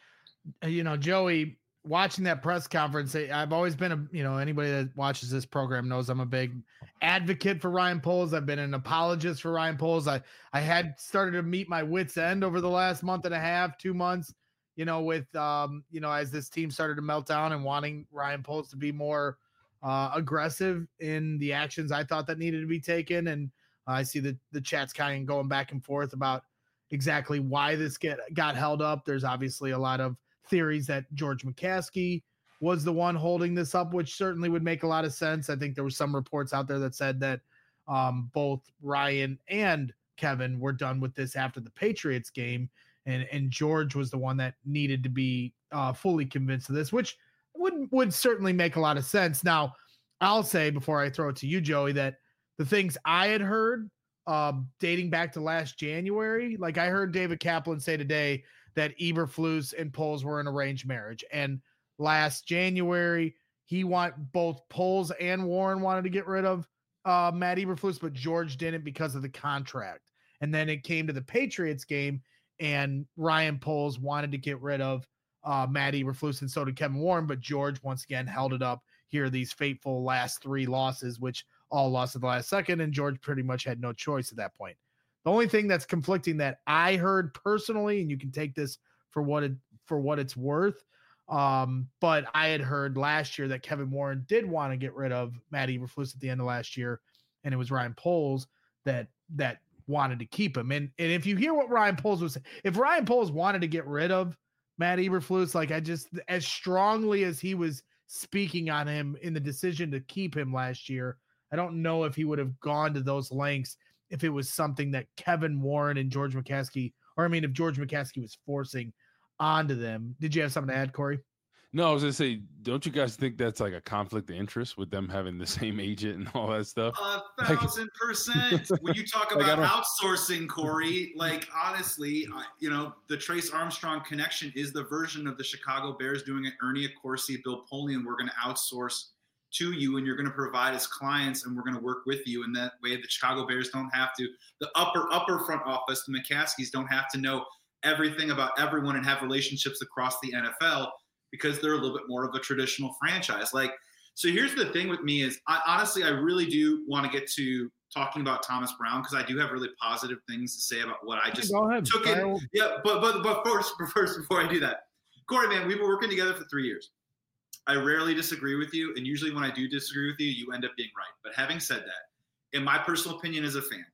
You know, Joey, watching that press conference, I've always been a, you know, anybody that watches this program knows I'm a big advocate for Ryan Poles. I've been an apologist for Ryan Poles. I, I had started to meet my wits end over the last month and a half, two months, you know, with, um, you know, as this team started to melt down and wanting Ryan Poles to be more uh, aggressive in the actions I thought that needed to be taken. And uh, I see the, the chats kind of going back and forth about exactly why this get got held up. There's obviously a lot of theories that George McCaskey was the one holding this up, which certainly would make a lot of sense. I think there were some reports out there that said that um, both Ryan and Kevin were done with this after the Patriots game, and and George was the one that needed to be uh, fully convinced of this, which would would certainly make a lot of sense. Now, I'll say before I throw it to you, Joey, that the things I had heard uh, dating back to last January, like I heard David Kaplan say today that Eberflus and Poles were an arranged marriage. And last January, he want both Poles and Warren wanted to get rid of uh, Matt Eberflus, but George didn't because of the contract. And then it came to the Patriots game, and Ryan Poles wanted to get rid of uh, Matt Eberflus, and so did Kevin Warren, but George once again held it up here, these fateful last three losses, which all lost at the last second, and George pretty much had no choice at that point. The only thing that's conflicting that I heard personally, and you can take this for what it for what it's worth, um, but I had heard last year that Kevin Warren did want to get rid of Matt Eberflus at the end of last year, and it was Ryan Poles that that wanted to keep him. And and if you hear what Ryan Poles was, if Ryan Poles wanted to get rid of Matt Eberflus, like I just as strongly as he was speaking on him in the decision to keep him last year, I don't know if he would have gone to those lengths if it was something that Kevin Warren and George McCaskey, or I mean, if George McCaskey was forcing onto them. Did you have something to add, Corey? No, I was gonna say, don't you guys think that's like a conflict of interest with them having the same agent and all that stuff? A thousand percent. When you talk about like outsourcing, Corey, like honestly, I, you know, the Trace Armstrong connection is the version of the Chicago Bears doing it. Ernie Accorsi, Bill Polian, we're going to outsource to you, and you're going to provide as clients, and we're going to work with you. And that way the Chicago Bears don't have to, the upper, upper front office, the McCaskies don't have to know everything about everyone and have relationships across the N F L because they're a little bit more of a traditional franchise. Like, so here's the thing with me is I honestly, I really do want to get to talking about Thomas Brown because I do have really positive things to say about what I just Go ahead. took in. Yeah, but, but, but first, first, before I do that, Corey, man, we've been working together for three years. I rarely disagree with you, and usually when I do disagree with you, you end up being right. But having said that, in my personal opinion as a fan,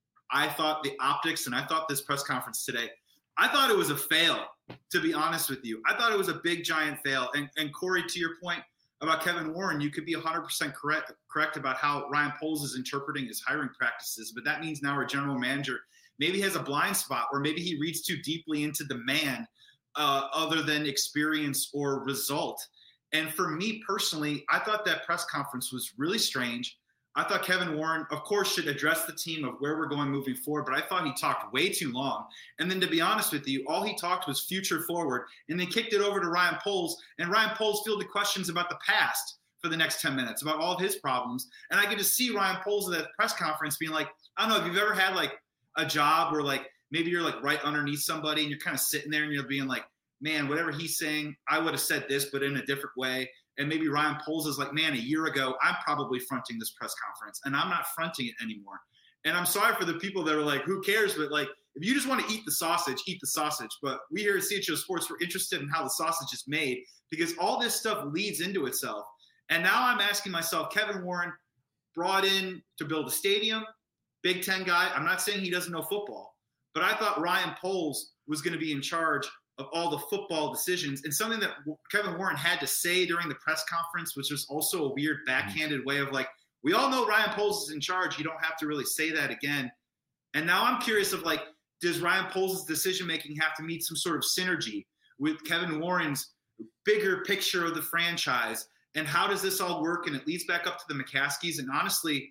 I thought the optics, and I thought this press conference today, I thought it was a fail, to be honest with you. I thought it was a big, giant fail. And, and Corey, to your point about Kevin Warren, you could be one hundred percent correct, correct about how Ryan Poles is interpreting his hiring practices, but that means now our general manager maybe has a blind spot, or maybe he reads too deeply into the man uh, other than experience or result. And for me personally, I thought that press conference was really strange. I thought Kevin Warren, of course, should address the team of where we're going moving forward, but I thought he talked way too long. And then to be honest with you, all he talked was future forward, and they kicked it over to Ryan Poles, and Ryan Poles fielded questions about the past for the next ten minutes, about all of his problems. And I could just see Ryan Poles at that press conference being like, I don't know, if you've ever had like a job where like maybe you're like right underneath somebody and you're kind of sitting there and you're being like, man, whatever he's saying, I would have said this, but in a different way. And maybe Ryan Poles is like, man, a year ago, I'm probably fronting this press conference, and I'm not fronting it anymore. And I'm sorry for the people that are like, who cares? But like, if you just want to eat the sausage, eat the sausage. But we here at C H O Sports, we're interested in how the sausage is made because all this stuff leads into itself. And now I'm asking myself, Kevin Warren brought in to build a stadium, Big Ten guy. I'm not saying he doesn't know football, but I thought Ryan Poles was going to be in charge of all the football decisions, and something that Kevin Warren had to say during the press conference, which was also a weird backhanded way of like, We all know Ryan Poles is in charge. You don't have to really say that again. And now I'm curious of like, does Ryan Poles' decision-making have to meet some sort of synergy with Kevin Warren's bigger picture of the franchise? And how does this all work? And it leads back up to the McCaskies. And honestly,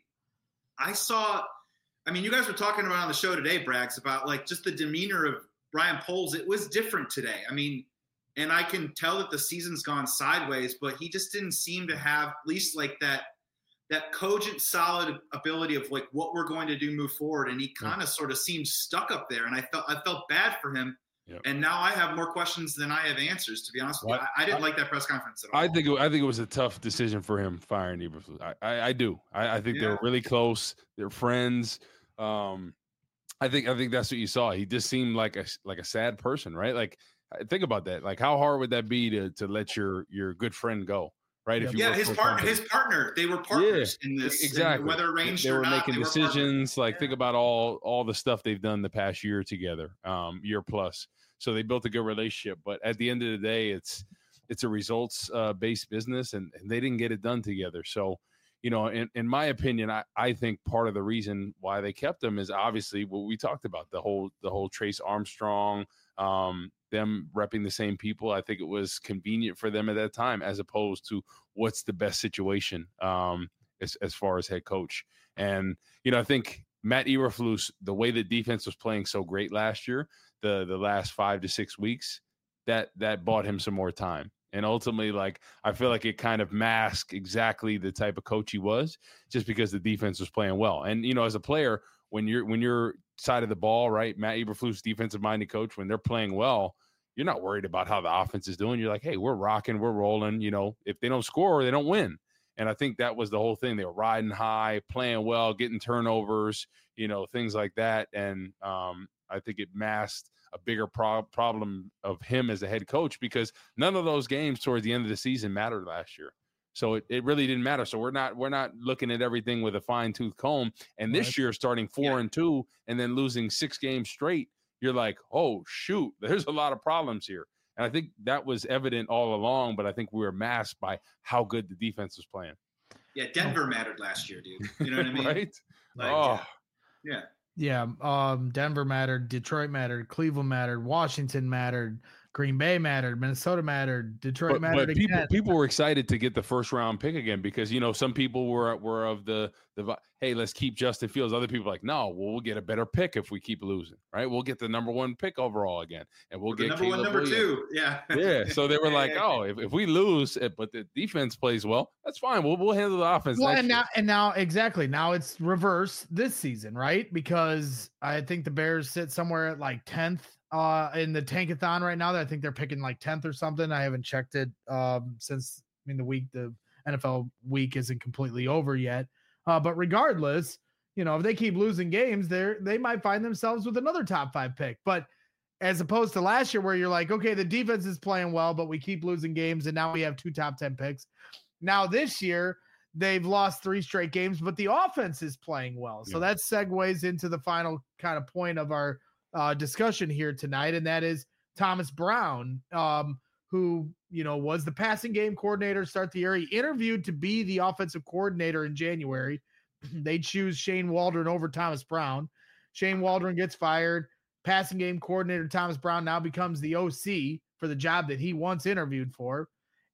I saw, I mean, you guys were talking about on the show today, Braggs, about like just the demeanor of Ryan Poles. It was different today. I mean, and I can tell that the season's gone sideways, but he just didn't seem to have at least like that that cogent, solid ability of like what we're going to do move forward. And he kind of yeah. sort of seemed stuck up there. And I felt I felt bad for him. Yep. And now I have more questions than I have answers, to be honest with well, you. I, I didn't I, like that press conference at all. I think it, I think it was a tough decision for him firing Eberflus. I, I, I do. I, I think yeah. they were really close. They're friends. Um, I think I think that's what you saw. He just seemed like a like a sad person, right? Like think about that. Like how hard would that be to to let your your good friend go? Right. Yeah, if you yeah his partner, his partner, they were partners yeah, in this. Exactly. Whether arranged they or were not, making they decisions. Were like yeah. think about all all the stuff they've done the past year together, um, year plus. So they built a good relationship. But at the end of the day, it's it's a results uh, based business, and, and they didn't get it done together. So, you know, in, in my opinion, I, I think part of the reason why they kept him is obviously what we talked about, the whole the whole Trace Armstrong. Um, them repping the same people. I think it was convenient for them at that time, as opposed to what's the best situation um, as, as far as head coach. And, you know, I think Matt Eberflus, the way the defense was playing so great last year, the the last five to six weeks, that that bought him some more time. And ultimately, like, I feel like it kind of masked exactly the type of coach he was, just because the defense was playing well. And, you know, as a player, when you're when you're side of the ball, right, Matt Eberflus, defensive-minded coach, when they're playing well, you're not worried about how the offense is doing. You're like, hey, we're rocking, we're rolling. You know, if they don't score, they don't win. And I think that was the whole thing. They were riding high, playing well, getting turnovers, you know, things like that. And um, I think it masked a bigger pro- problem of him as a head coach, because none of those games towards the end of the season mattered last year. So it, it really didn't matter. So we're not we're not looking at everything with a fine tooth comb. And this right. year, starting four yeah. and two and then losing six games straight, you're like, oh, shoot, there's a lot of problems here. And I think that was evident all along, but I think we were masked by how good the defense was playing. Yeah, Denver mattered last year, dude. You know what I mean? Right? Like, oh. Yeah. Yeah. Um, Denver mattered. Detroit mattered. Cleveland mattered. Washington mattered. Green Bay mattered. Minnesota mattered. Detroit but, mattered but people, again. people were excited to get the first round pick again, because, you know, some people were were of the, the hey, let's keep Justin Fields. Other people were like, no, well, we'll get a better pick if we keep losing, right? We'll get the number one pick overall again, and we'll get number Caleb one, number Williams. two. Yeah. Yeah. So they were like, oh, if, if we lose, but the defense plays well, that's fine. We'll we'll handle the offense. Well, next and year. now and now exactly now it's reverse this season, right? Because I think the Bears sit somewhere at like tenth. Uh, in the Tankathon right now, that I think they're picking like tenth or something. I haven't checked it um, since I mean the week the N F L week isn't completely over yet. Uh, but regardless, you know, if they keep losing games, they they might find themselves with another top five pick. But as opposed to last year, where you're like, okay, the defense is playing well, but we keep losing games, and now we have two top ten picks. Now this year, they've lost three straight games, but the offense is playing well. So yeah. that segues into the final kind of point of our Uh, discussion here tonight, and that is Thomas Brown, um, who, you know, was the passing game coordinator to start the year. He interviewed to be the offensive coordinator in January. They choose Shane Waldron over Thomas Brown. Shane Waldron gets fired. Passing game coordinator Thomas Brown now becomes the O C for the job that he once interviewed for,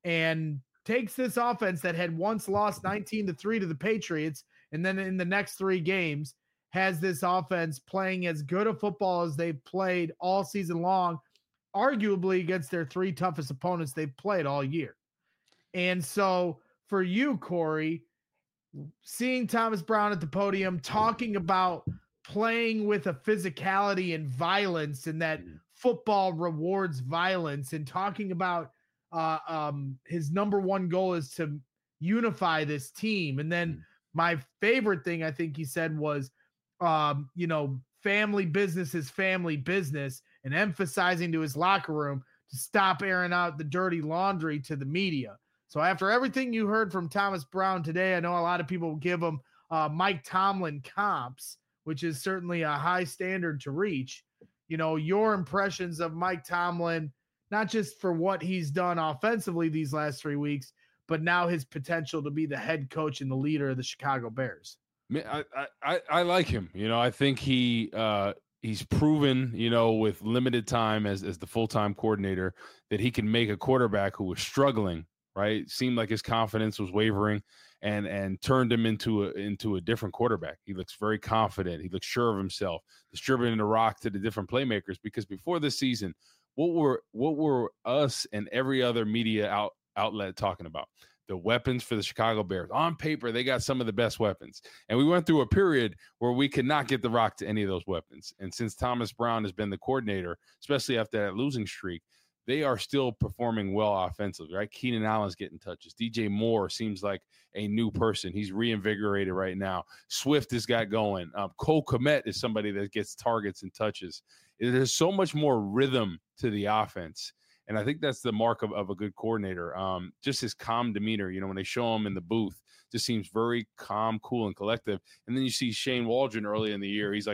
and takes this offense that had once lost nineteen to three to the Patriots, and then in the next three games has this offense playing as good a football as they've played all season long, arguably against their three toughest opponents they've played all year. And so for you, Corey, seeing Thomas Brown at the podium talking about playing with a physicality and violence, and that football rewards violence, and talking about uh, um, his number one goal is to unify this team. And then my favorite thing I think he said was, Um, you know, family business is family business, and emphasizing to his locker room to stop airing out the dirty laundry to the media. So after everything you heard from Thomas Brown today, I know a lot of people give him uh, Mike Tomlin comps, which is certainly a high standard to reach. You know, your impressions of Mike Tomlin, not just for what he's done offensively these last three weeks, but now his potential to be the head coach and the leader of the Chicago Bears. I, I, I like him. You know, I think he uh, he's proven, you know, with limited time as, as the full-time coordinator that he can make a quarterback who was struggling, right? It seemed like his confidence was wavering and and turned him into a, into a different quarterback. He looks very confident. He looks sure of himself, distributing the rock to the different playmakers, because before this season, what were what were us and every other media out, outlet talking about? The weapons for the Chicago Bears. On paper, they got some of the best weapons. And we went through a period where we could not get the rock to any of those weapons. And since Thomas Brown has been the coordinator, especially after that losing streak, they are still performing well offensively, right? Keenan Allen's getting touches. D J Moore seems like a new person. He's reinvigorated right now. Swift has got going. Um, Cole Kmet is somebody that gets targets and touches. There's so much more rhythm to the offense. And I think that's the mark of, of a good coordinator. Um, just his calm demeanor, you know, when they show him in the booth, just seems very calm, cool, and collective. And then you see Shane Waldron early in the year. He's like,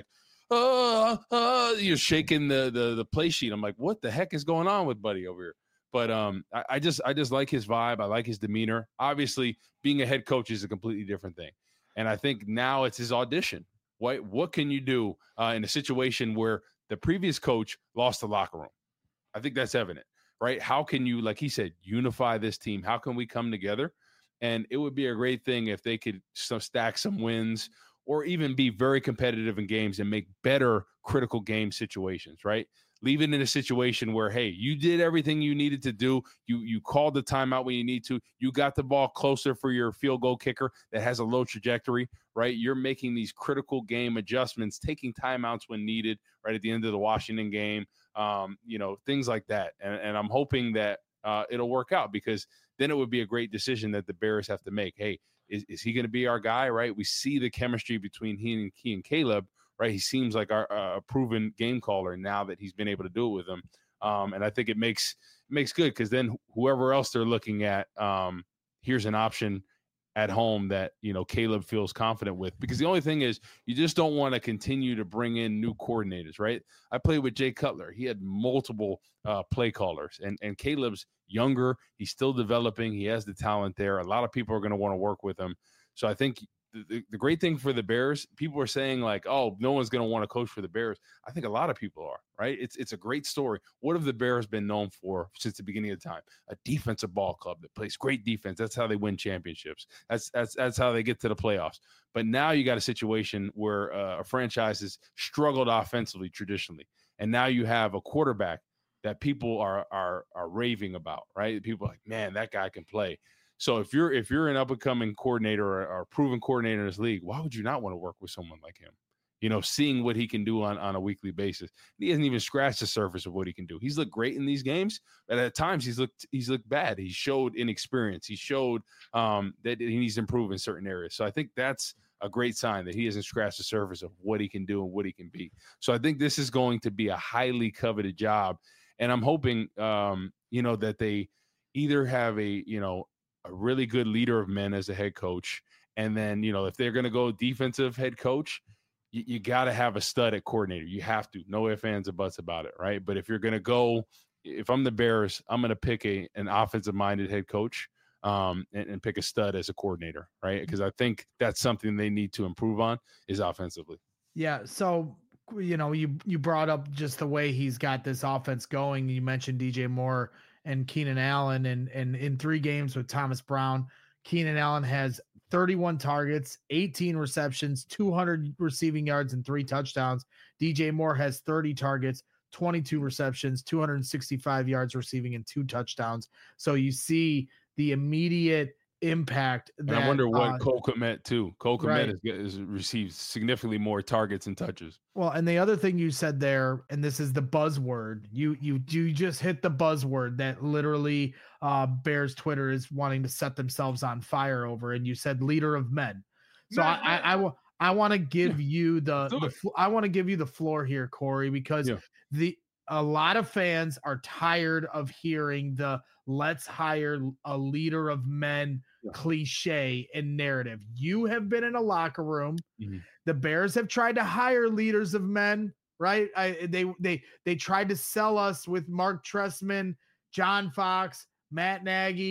oh, uh, you're shaking the, the the play sheet. I'm like, what the heck is going on with Buddy over here? But um, I, I just I just like his vibe. I like his demeanor. Obviously, being a head coach is a completely different thing. And I think now it's his audition. What, what can you do uh, in a situation where the previous coach lost the locker room? I think that's evident. Right? How can you, like he said, unify this team? How can we come together? And it would be a great thing if they could some, stack some wins or even be very competitive in games and make better critical game situations, right? Leave it in a situation where, hey, you did everything you needed to do. You you called the timeout when you need to. You got the ball closer for your field goal kicker that has a low trajectory, right? You're making these critical game adjustments, taking timeouts when needed, right at the end of the Washington game. Um, you know, things like that. And, and I'm hoping that uh, it'll work out, because then it would be a great decision that the Bears have to make. Hey, is, is he going to be our guy, right? We see the chemistry between he and, he and Caleb, right? He seems like our uh, proven game caller now that he's been able to do it with him. Um, and I think it makes it makes good, because then whoever else they're looking at, um, here's an option at home that, you know, Caleb feels confident with. Because the only thing is, you just don't want to continue to bring in new coordinators, right? I played with Jay Cutler. He had multiple uh, play callers, and, and Caleb's younger. He's still developing. He has the talent there. A lot of people are going to want to work with him. So I think the, the great thing for the Bears, people are saying like, oh, no one's going to want to coach for the Bears. I think a lot of people are, right? It's it's a great story. What have the Bears been known for since the beginning of the time? A defensive ball club that plays great defense. That's how they win championships. That's that's that's how they get to the playoffs. But now you got a situation where uh, a franchise has struggled offensively traditionally, and now you have a quarterback that people are are are raving about, right? People are like, man, that guy can play. So if you're if you're an up and coming coordinator or, or a proven coordinator in this league, why would you not want to work with someone like him? You know, seeing what he can do on, on a weekly basis. He hasn't even scratched the surface of what he can do. He's looked great in these games, but at times he's looked he's looked bad. He showed inexperience. He showed um, that he needs to improve in certain areas. So I think that's a great sign that he hasn't scratched the surface of what he can do and what he can be. So I think this is going to be a highly coveted job, and I'm hoping um, you know that they either have a you know. a really good leader of men as a head coach. And then, you know, if they're going to go defensive head coach, you, you got to have a stud at coordinator. You have to. No ifs, ands, or buts about it, right? But if you're going to go, if I'm the Bears, I'm going to pick a an offensive-minded head coach um, and, and pick a stud as a coordinator, right? Because I think that's something they need to improve on is offensively. Yeah, so, you know, you you brought up just the way he's got this offense going. You mentioned D J Moore and Keenan Allen, and, and in three games with Thomas Brown, Keenan Allen has thirty-one targets, eighteen receptions, two hundred receiving yards, and three touchdowns. D J Moore has thirty targets, twenty-two receptions, two hundred sixty-five yards receiving, and two touchdowns. So you see the immediate impact. That, and I wonder what uh, Cole Kmet too. Cole Kmet right. has, has received significantly more targets and touches. Well, and the other thing you said there, and this is the buzzword, you you you just hit the buzzword that literally uh, Bears Twitter is wanting to set themselves on fire over, and you said leader of men. So Man, I I, I, I want to give yeah, you the, the I want to give you the floor here, Corey, because yeah. the a lot of fans are tired of hearing the let's hire a leader of men yeah. cliche and narrative. You have been in a locker room. Mm-hmm. The Bears have tried to hire leaders of men, right? I, they they they tried to sell us with Mark Trestman, John Fox, Matt Nagy,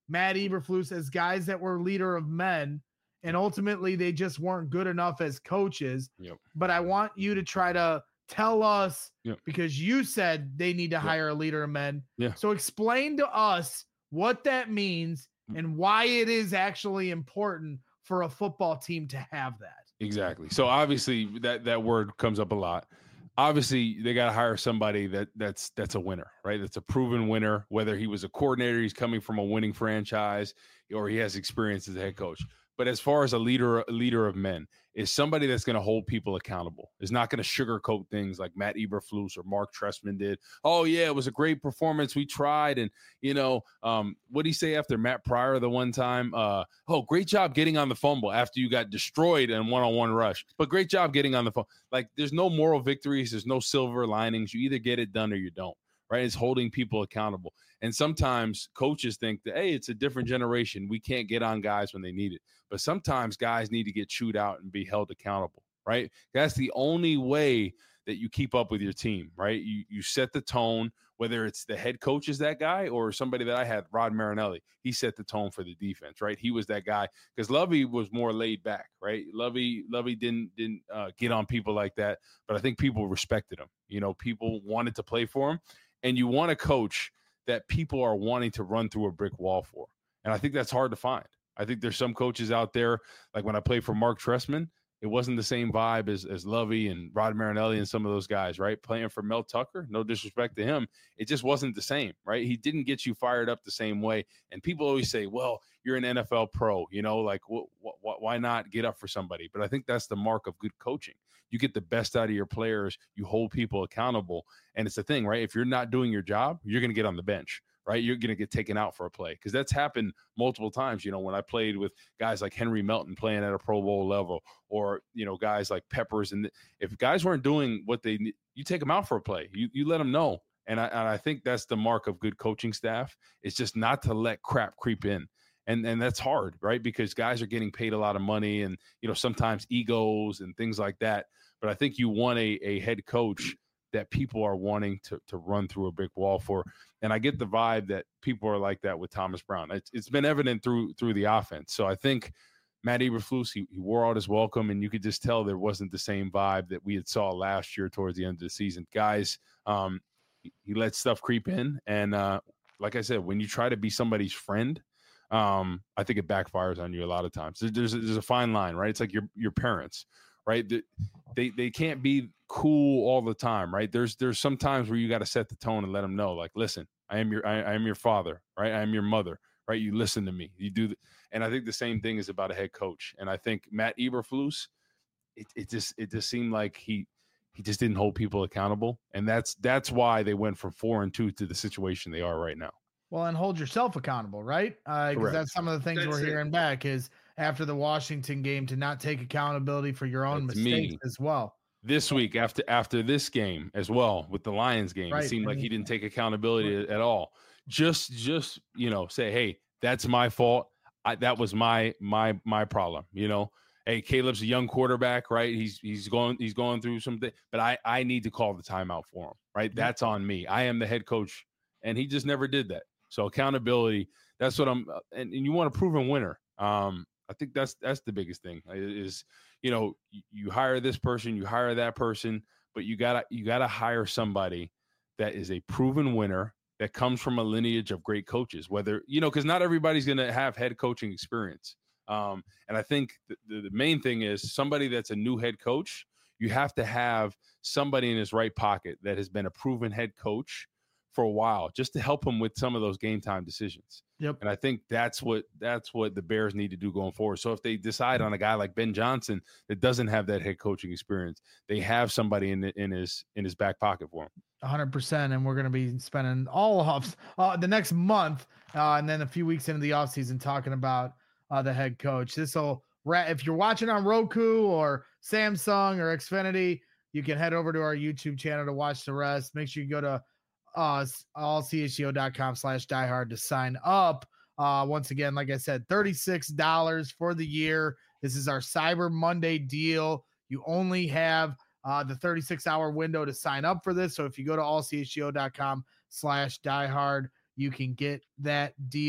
Matt Eberflus as guys that were leader of men, and ultimately they just weren't good enough as coaches. Yep. But I want you to try to tell us, yep. because you said they need to yep. hire a leader of men. Yeah. So explain to us what that means and why it is actually important for a football team to have that. Exactly. So obviously that, that word comes up a lot. Obviously they got to hire somebody that that's, that's a winner, right? That's a proven winner, whether he was a coordinator, he's coming from a winning franchise, or he has experience as a head coach. But as far as a leader, a leader of men, is somebody that's going to hold people accountable, is not going to sugarcoat things like Matt Eberflus or Mark Trestman did. Oh yeah, it was a great performance. We tried. And you know, um, what did he say after Matt Pryor the one time? Uh, oh, great job getting on the fumble after you got destroyed in one-on-one rush, but great job getting on the phone. Like there's no moral victories. There's no silver linings. You either get it done or you don't. Right. It's holding people accountable. And sometimes coaches think that, hey, it's a different generation. We can't get on guys when they need it. But sometimes guys need to get chewed out and be held accountable. Right. That's the only way that you keep up with your team. Right. You, you set the tone, whether it's the head coach is that guy or somebody that I had, Rod Marinelli. He set the tone for the defense. Right. He was that guy because Lovey was more laid back. Right. Lovey, Lovey didn't didn't uh, get on people like that. But I think people respected him. You know, people wanted to play for him. And you want a coach that people are wanting to run through a brick wall for. And I think that's hard to find. I think there's some coaches out there, like when I played for Mark Trestman, it wasn't the same vibe as, as Lovey and Rod Marinelli and some of those guys, right? Playing for Mel Tucker, no disrespect to him, it just wasn't the same, right? He didn't get you fired up the same way. And people always say, well, you're an N F L pro, you know, like wh- wh- why not get up for somebody? But I think that's the mark of good coaching. You get the best out of your players. You hold people accountable. And it's the thing, right? If you're not doing your job, you're going to get on the bench, right? You're going to get taken out for a play because that's happened multiple times. You know, when I played with guys like Henry Melton playing at a Pro Bowl level, or, you know, guys like Peppers. And if guys weren't doing what they need, you take them out for a play. You, you let them know. And I, and I think that's the mark of good coaching staff. It's just not to let crap creep in. And and that's hard, right? Because guys are getting paid a lot of money and, you know, sometimes egos and things like that. But I think you want a, a head coach that people are wanting to to run through a brick wall for. And I get the vibe that people are like that with Thomas Brown. It's, it's been evident through through the offense. So I think Matt Eberflus, he, he wore out his welcome, and you could just tell there wasn't the same vibe that we had saw last year towards the end of the season. Guys, um, he, he let stuff creep in. And uh, like I said, when you try to be somebody's friend, um, I think it backfires on you a lot of times. There's a, there's a fine line, right? It's like your your parents, right? They they can't be cool all the time, right? There's there's some times where you got to set the tone and let them know, like, listen, I am your I, I am your father, right? I am your mother, right? You listen to me. You do, the, and I think the same thing is about a head coach. And I think Matt Eberflus, it it just it just seemed like he he just didn't hold people accountable, and that's that's why they went from four and two to the situation they are right now. Well, and hold yourself accountable, right? Because uh, that's some of the things that's we're it. hearing back is after the Washington game to not take accountability for your own that's mistakes me. as well. This week after after this game as well with the Lions game, right. It seemed like he didn't take accountability right. at all. Just just you know say, hey, that's my fault. I, that was my my my problem. You know, hey, Caleb's a young quarterback, right? He's he's going he's going through something, but I I need to call the timeout for him, right? Mm-hmm. That's on me. I am the head coach, and he just never did that. So accountability, that's what I'm, and, and you want a proven winner. Um, I think that's that's the biggest thing is, you know, you, you hire this person, you hire that person, but you gotta you gotta hire somebody that is a proven winner that comes from a lineage of great coaches. Whether you know, because not everybody's gonna have head coaching experience. Um, and I think the, the, the main thing is somebody that's a new head coach. You have to have somebody in his right pocket that has been a proven head coach for a while, just to help him with some of those game time decisions. Yep. And I think that's what that's what the Bears need to do going forward. So if they decide on a guy like Ben Johnson that doesn't have that head coaching experience, they have somebody in the, in his in his back pocket for him. one hundred percent. And we're going to be spending all of uh, the next month uh, and then a few weeks into the offseason talking about uh, the head coach. This will if you're watching on Roku or Samsung or Xfinity, you can head over to our YouTube channel to watch the rest. Make sure you go to uh all c h g o dot com slash diehard to sign up. Uh once again, like I said, thirty-six dollars for the year. This is our Cyber Monday deal. You only have uh the thirty-six hour window to sign up for this. So if you go to all c h g o dot com slash diehard, you can get that deal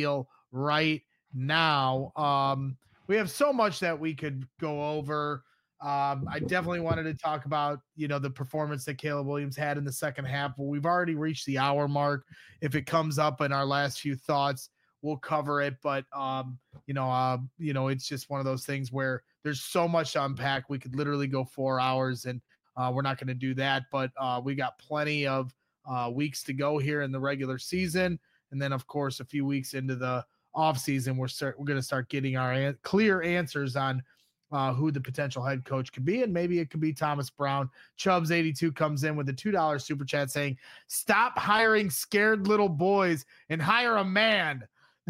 right now. Um, we have so much that we could go over. Um, I definitely wanted to talk about, you know, the performance that Caleb Williams had in the second half. But we've already reached the hour mark. If it comes up in our last few thoughts, we'll cover it. But, um, you know, uh, you know, it's just one of those things where there's so much to unpack. We could literally go four hours and uh, we're not going to do that. But uh, we got plenty of uh, weeks to go here in the regular season. And then, of course, a few weeks into the off season, we're start, we're going to start getting our an- clear answers on Uh, who the potential head coach could be, and maybe it could be Thomas Brown. Chubbs eighty-two comes in with a two dollars super chat saying, "Stop hiring scared little boys and hire a man."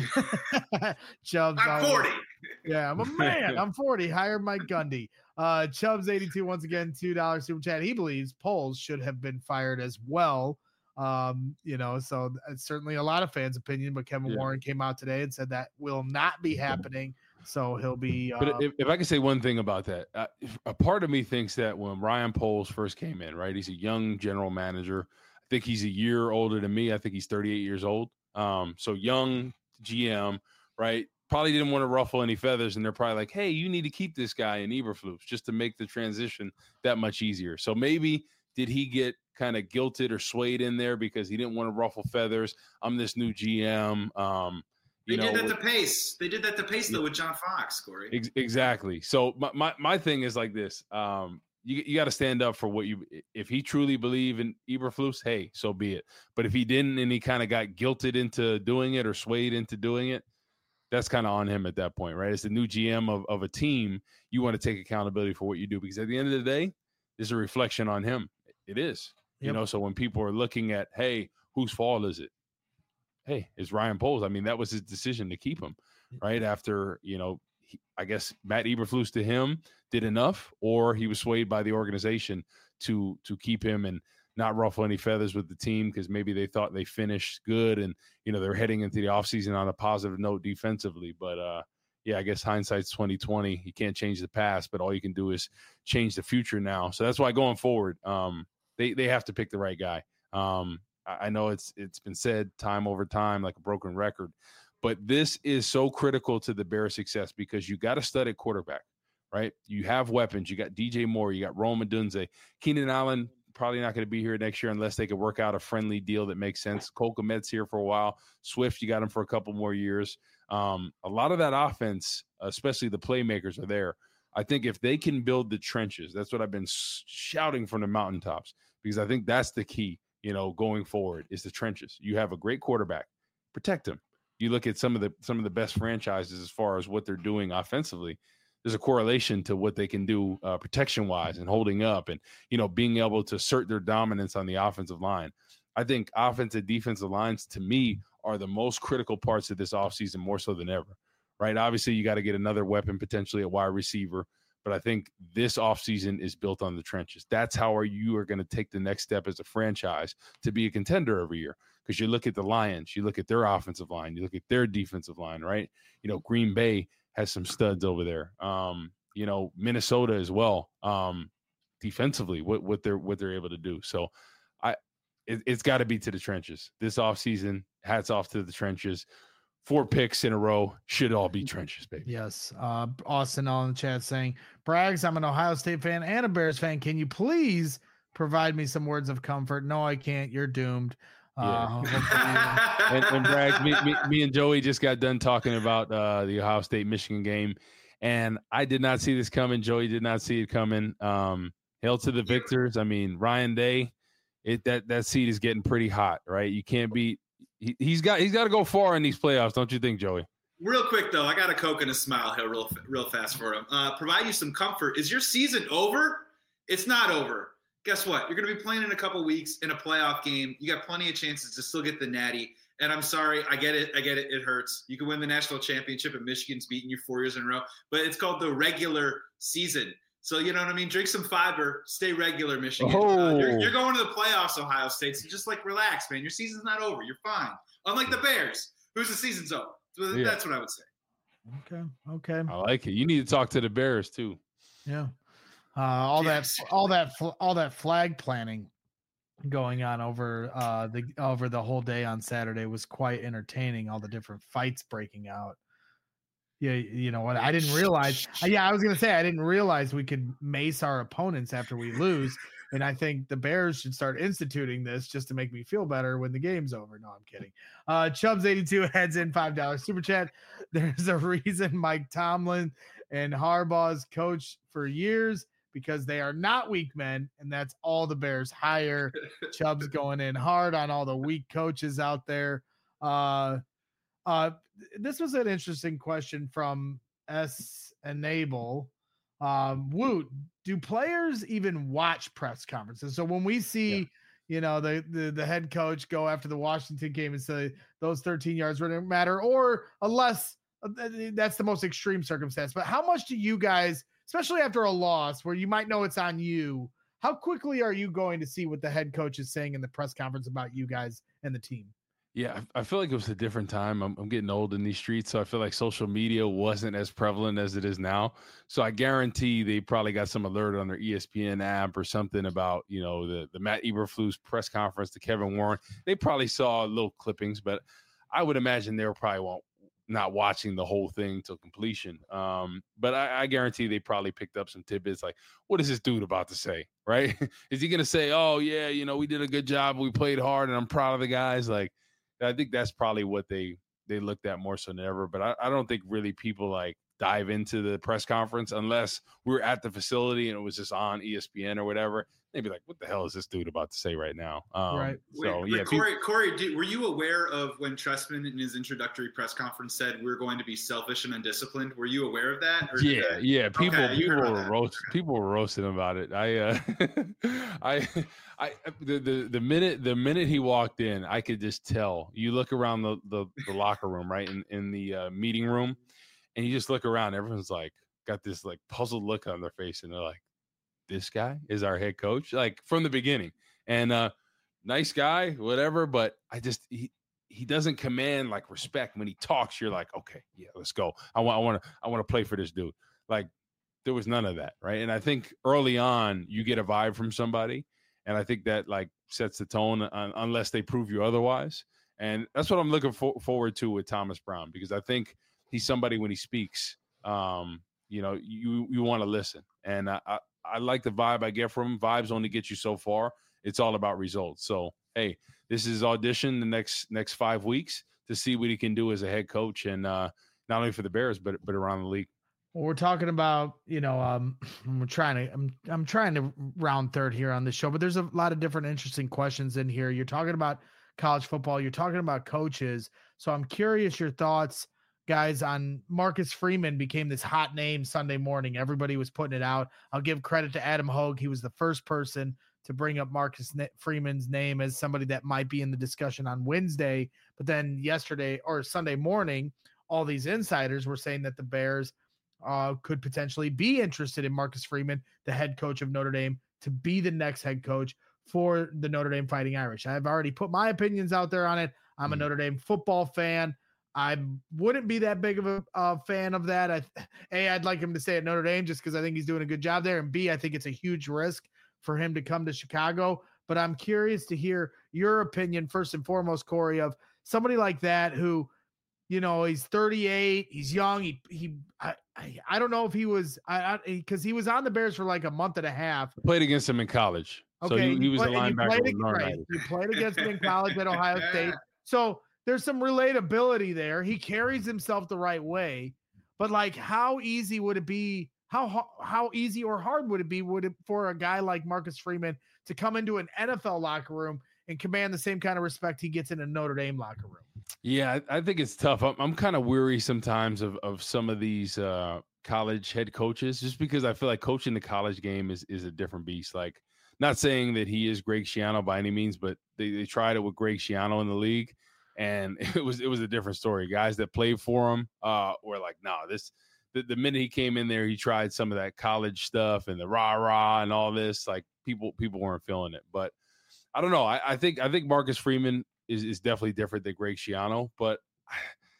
Chubbs, I'm forty. Yeah, I'm a man. I'm forty. Hire Mike Gundy. Uh, Chubbs eighty-two once again, two dollars super chat. He believes Poles should have been fired as well. Um, you know, so it's certainly a lot of fans' opinion, but Kevin yeah. Warren came out today and said that will not be happening. So he'll be. Uh, but if, if I can say one thing about that, uh, a part of me thinks that when Ryan Poles first came in, right, he's a young general manager. I think he's a year older than me. I think he's thirty-eight years old. Um, so young G M, right? Probably didn't want to ruffle any feathers, and they're probably like, "Hey, you need to keep this guy in Eberflus just to make the transition that much easier." So maybe did he get kind of guilted or swayed in there because he didn't want to ruffle feathers? I'm this new G M. Um, They you did know, that to Pace. They did that to Pace, though, with John Fox, Corey. Ex- exactly. So my, my, my thing is like this. Um, you you got to stand up for what you – if he truly believed in Eberflus, hey, so be it. But if he didn't and he kind of got guilted into doing it or swayed into doing it, that's kind of on him at that point, right? As the new G M of, of a team, you want to take accountability for what you do because at the end of the day, it's a reflection on him. It is. Yep. You know, so when people are looking at, hey, whose fault is it? Hey, it's Ryan Poles. I mean, that was his decision to keep him, right? After, you know, he, I guess Matt Eberflus to him did enough, or he was swayed by the organization to to keep him and not ruffle any feathers with the team because maybe they thought they finished good and, you know, they're heading into the offseason on a positive note defensively. But, uh, yeah, I guess hindsight's twenty twenty. You can't change the past, but all you can do is change the future now. So that's why going forward, um, they, they have to pick the right guy. Um I know it's it's been said time over time like a broken record, but this is so critical to the Bears' success because you got to stud at quarterback, right? You have weapons. You got D J Moore. You got Rome Odunze. Keenan Allen probably not going to be here next year unless they could work out a friendly deal that makes sense. Cole Kmet's here for a while. Swift, you got him for a couple more years. Um, a lot of that offense, especially the playmakers, are there. I think if they can build the trenches, that's what I've been shouting from the mountaintops because I think that's the key. You know, going forward is the trenches. You have a great quarterback, protect him. You look at some of the some of the best franchises as far as what they're doing offensively. There's a correlation to what they can do uh, protection wise and holding up, and you know, being able to assert their dominance on the offensive line. I think offensive defensive lines to me are the most critical parts of this offseason more so than ever. Right? Obviously, you got to get another weapon potentially at wide receiver. But I think this offseason is built on the trenches. That's how are you are going to take the next step as a franchise to be a contender every year. Because you look at the Lions, you look at their offensive line, you look at their defensive line, right? You know, Green Bay has some studs over there. Um, you know, Minnesota as well. Um, defensively, what what they're what they're able to do. So I it, it's got to be to the trenches. This offseason, hats off to the trenches. Four picks in a row should all be trenches, baby. Yes. Uh, Austin on the chat saying, Braggs, I'm an Ohio State fan and a Bears fan. Can you please provide me some words of comfort? No, I can't. You're doomed. Uh, yeah. and, and Braggs, me, me, me and Joey just got done talking about uh, the Ohio State Michigan game, and I did not see this coming. Joey did not see it coming. Um, hail to the victors. I mean, Ryan Day, it that that seat is getting pretty hot, right? You can't beat. He, he's got he's got to go far in these playoffs, don't you think, Joey? Real quick though, I got a Coke and a smile here, real real fast for him. Uh, provide you some comfort. Is your season over? It's not over. Guess what? You're going to be playing in a couple weeks in a playoff game. You got plenty of chances to still get the natty. And I'm sorry, I get it. I get it. It hurts. You can win the national championship, and Michigan's beating you four years in a row. But it's called the regular season. So, you know what I mean? Drink some fiber. Stay regular, Michigan. Oh. Uh, you're, you're going to the playoffs, Ohio State. So just, like, relax, man. Your season's not over. You're fine. Unlike the Bears, whose the season's over. So yeah. That's what I would say. Okay. Okay. I like it. You need to talk to the Bears, too. Yeah. Uh, all yes. that, all that, all that flag planning going on over uh the over the whole day on Saturday was quite entertaining. All the different fights breaking out. Yeah, you know what? I didn't realize. Yeah, I was gonna say I didn't realize we could mace our opponents after we lose, and I think the Bears should start instituting this just to make me feel better when the game's over. No, I'm kidding. Uh, Chubbs eighty-two heads in five dollars super chat. There's a reason Mike Tomlin and Harbaugh's coach for years because they are not weak men, and that's all the Bears hire. Chubbs going in hard on all the weak coaches out there. Uh, uh, this was an interesting question from S Enable. Um, Woot, do players even watch press conferences? So when we see, yeah. you know, the, the the head coach go after the Washington game and say those thirteen yards wouldn't matter, or unless that's the most extreme circumstance. But how much do you guys, especially after a loss where you might know it's on you, how quickly are you going to see what the head coach is saying in the press conference about you guys and the team? Yeah, I feel like it was a different time. I'm, I'm getting old in these streets, so I feel like social media wasn't as prevalent as it is now. So I guarantee they probably got some alert on their E S P N app or something about, you know, the, the Matt Eberflus press conference, the Kevin Warren. They probably saw little clippings, but I would imagine they were probably won't, not watching the whole thing till completion. Um, but I, I guarantee they probably picked up some tidbits like, what is this dude about to say, right? Is he going to say, oh, yeah, you know, we did a good job, we played hard, and I'm proud of the guys? Like, I think that's probably what they they looked at more so than ever. But I, I don't think really people like dive into the press conference unless we were at the facility and it was just on E S P N or whatever. They'd be like, what the hell is this dude about to say right now? Um, right. So, wait, yeah. wait, Corey, people- Corey did, were you aware of when Trestman in his introductory press conference said we're going to be selfish and undisciplined? Were you aware of that? Or yeah. that... Yeah. People, okay, people were roast, people were roasting about it. I, uh, I, I, the, the, the minute, the minute he walked in, I could just tell. You look around the, the, the locker room, right? In, in the uh, meeting room, and you just look around, everyone's like, got this like puzzled look on their face. And they're like, this guy is our head coach, like from the beginning. And uh nice guy, whatever, but I just he he doesn't command like respect. When he talks, you're like, okay, yeah, let's go. I want I want to I want to play for this dude. Like there was none of that, right? And I think early on you get a vibe from somebody, and I think that like sets the tone uh, unless they prove you otherwise. And that's what I'm looking for, forward to with Thomas Brown, because I think he's somebody when he speaks, um, you know, you you want to listen. And I, I I like the vibe I get from him. Vibes only get you so far. It's all about results. So, hey, this is audition the next next five weeks to see what he can do as a head coach, and uh, not only for the Bears, but but around the league. Well, we're talking about, you know, um, we're trying to, I'm, I'm trying to round third here on this show, but there's a lot of different interesting questions in here. You're talking about college football. You're talking about coaches. So I'm curious your thoughts, guys, on Marcus Freeman became this hot name Sunday morning. Everybody was putting it out. I'll give credit to Adam Hogue. He was the first person to bring up Marcus Freeman's name as somebody that might be in the discussion on Wednesday. But then yesterday or Sunday morning, all these insiders were saying that the Bears uh, could potentially be interested in Marcus Freeman, the head coach of Notre Dame, to be the next head coach for the Notre Dame Fighting Irish. I've already put my opinions out there on it. I'm a Notre Dame football fan. I wouldn't be that big of a uh, fan of that. I, A, I'd like him to stay at Notre Dame just because I think he's doing a good job there. And B, I think it's a huge risk for him to come to Chicago. But I'm curious to hear your opinion, first and foremost, Corey, of somebody like that who, you know, he's thirty-eight, he's young. He, he, I, I, I don't know if he was, I, because he was on the Bears for like a month and a half. Played against him in college. Okay, so he, he was played, a linebacker. You played, with right, you played against him in college at Ohio State. So there's some relatability there. He carries himself the right way, but like, how easy would it be? How how easy or hard would it be would it for a guy like Marcus Freeman to come into an N F L locker room and command the same kind of respect he gets in a Notre Dame locker room? Yeah, I, I think it's tough. I'm, I'm kind of weary sometimes of of some of these uh, college head coaches, just because I feel like coaching the college game is is a different beast. Like, not saying that he is Greg Schiano by any means, but they, they tried it with Greg Schiano in the league. And it was it was a different story. Guys that played for him uh, were like, no, nah, this the, the minute he came in there, he tried some of that college stuff and the rah rah and all this. Like people people weren't feeling it. But I don't know. I, I think I think Marcus Freeman is, is definitely different than Greg Schiano. But I,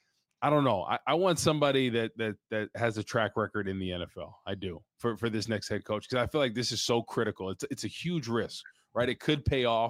I don't know. I, I want somebody that that that has a track record in the N F L. I do for for this next head coach, because I feel like this is so critical. It's it's a huge risk, right? It could pay off.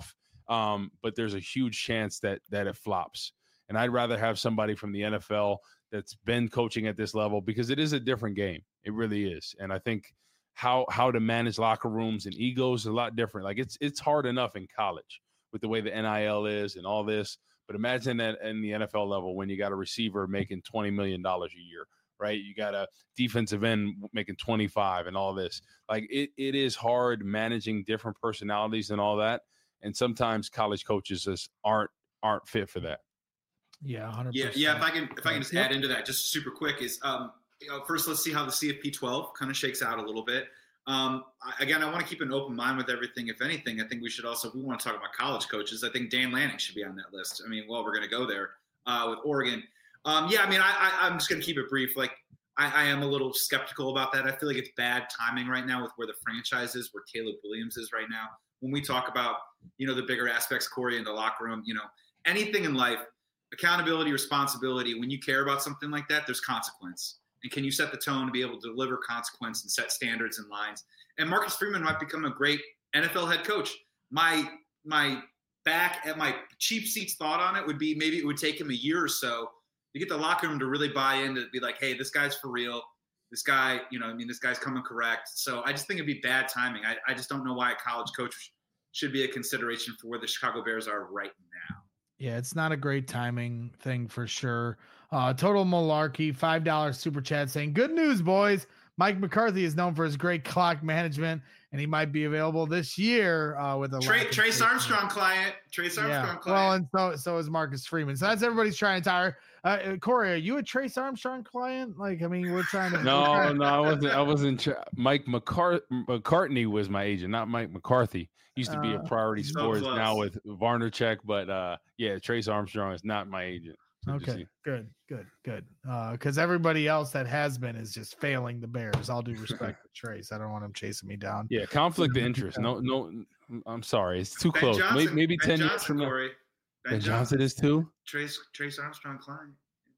Um, but there's a huge chance that that it flops. And I'd rather have somebody from the N F L that's been coaching at this level, because it is a different game. It really is. And I think how how to manage locker rooms and egos is a lot different. Like it's it's hard enough in college with the way the N I L is and all this. But imagine that in the N F L level when you got a receiver making twenty million dollars a year, right? You got a defensive end making twenty-five and all this. Like it it is hard managing different personalities and all that. And sometimes college coaches just aren't aren't fit for that. Yeah, one hundred Yeah, percent. yeah. If I can, if I can just Yep. add into that, just super quick, is um, you know, first let's see how the C F P twelve kind of shakes out a little bit. Um, I, again, I want to keep an open mind with everything. If anything, I think we should also, if we want to talk about college coaches, I think Dan Lanning should be on that list. I mean, well, we're going to go there uh, with Oregon. Um, yeah, I mean, I, I, I'm just going to keep it brief. Like, I, I am a little skeptical about that. I feel like it's bad timing right now with where the franchise is, where Caleb Williams is right now. When we talk about, you know, the bigger aspects, Corey, in the locker room, you know, anything in life, accountability, responsibility, when you care about something like that, there's consequence. And can you set the tone to be able to deliver consequence and set standards and lines? And Marcus Freeman might become a great N F L head coach. My my back at my cheap seats thought on it would be maybe it would take him a year or so to get the locker room to really buy in, to be like, hey, this guy's for real. This guy, you know, I mean, this guy's coming correct. So I just think it'd be bad timing. I, I just don't know why a college coach should be a consideration for where the Chicago Bears are right now. Yeah, it's not a great timing thing for sure. Uh, Total Malarkey, five dollars super chat saying, good news, boys. Mike McCarthy is known for his great clock management, and he might be available this year uh, with a Tra- Trace Armstrong client. Trace Armstrong yeah. client. Well, and so so is Marcus Freeman. So that's everybody's trying to tire. Uh, Corey, are you a Trace Armstrong client? Like, I mean, we're trying to. No, no, I wasn't. I wasn't. Tra- Mike McCart- McCartney was my agent, not Mike McCarthy. Used to be a Uh, Priority so Sports close. now with Varnerchek, but uh, yeah, Trace Armstrong is not my agent. So just Okay, see. good, good, good. Because everybody else that has been is just failing the Bears. All due respect to Trace. I don't want him chasing me down. Yeah, conflict of interest. No, no. I'm sorry, it's too Ben close. Johnson, maybe maybe Ben ten Johnson, years from now. Corey. Ben, Ben Johnson is too. Trace Trace Armstrong client.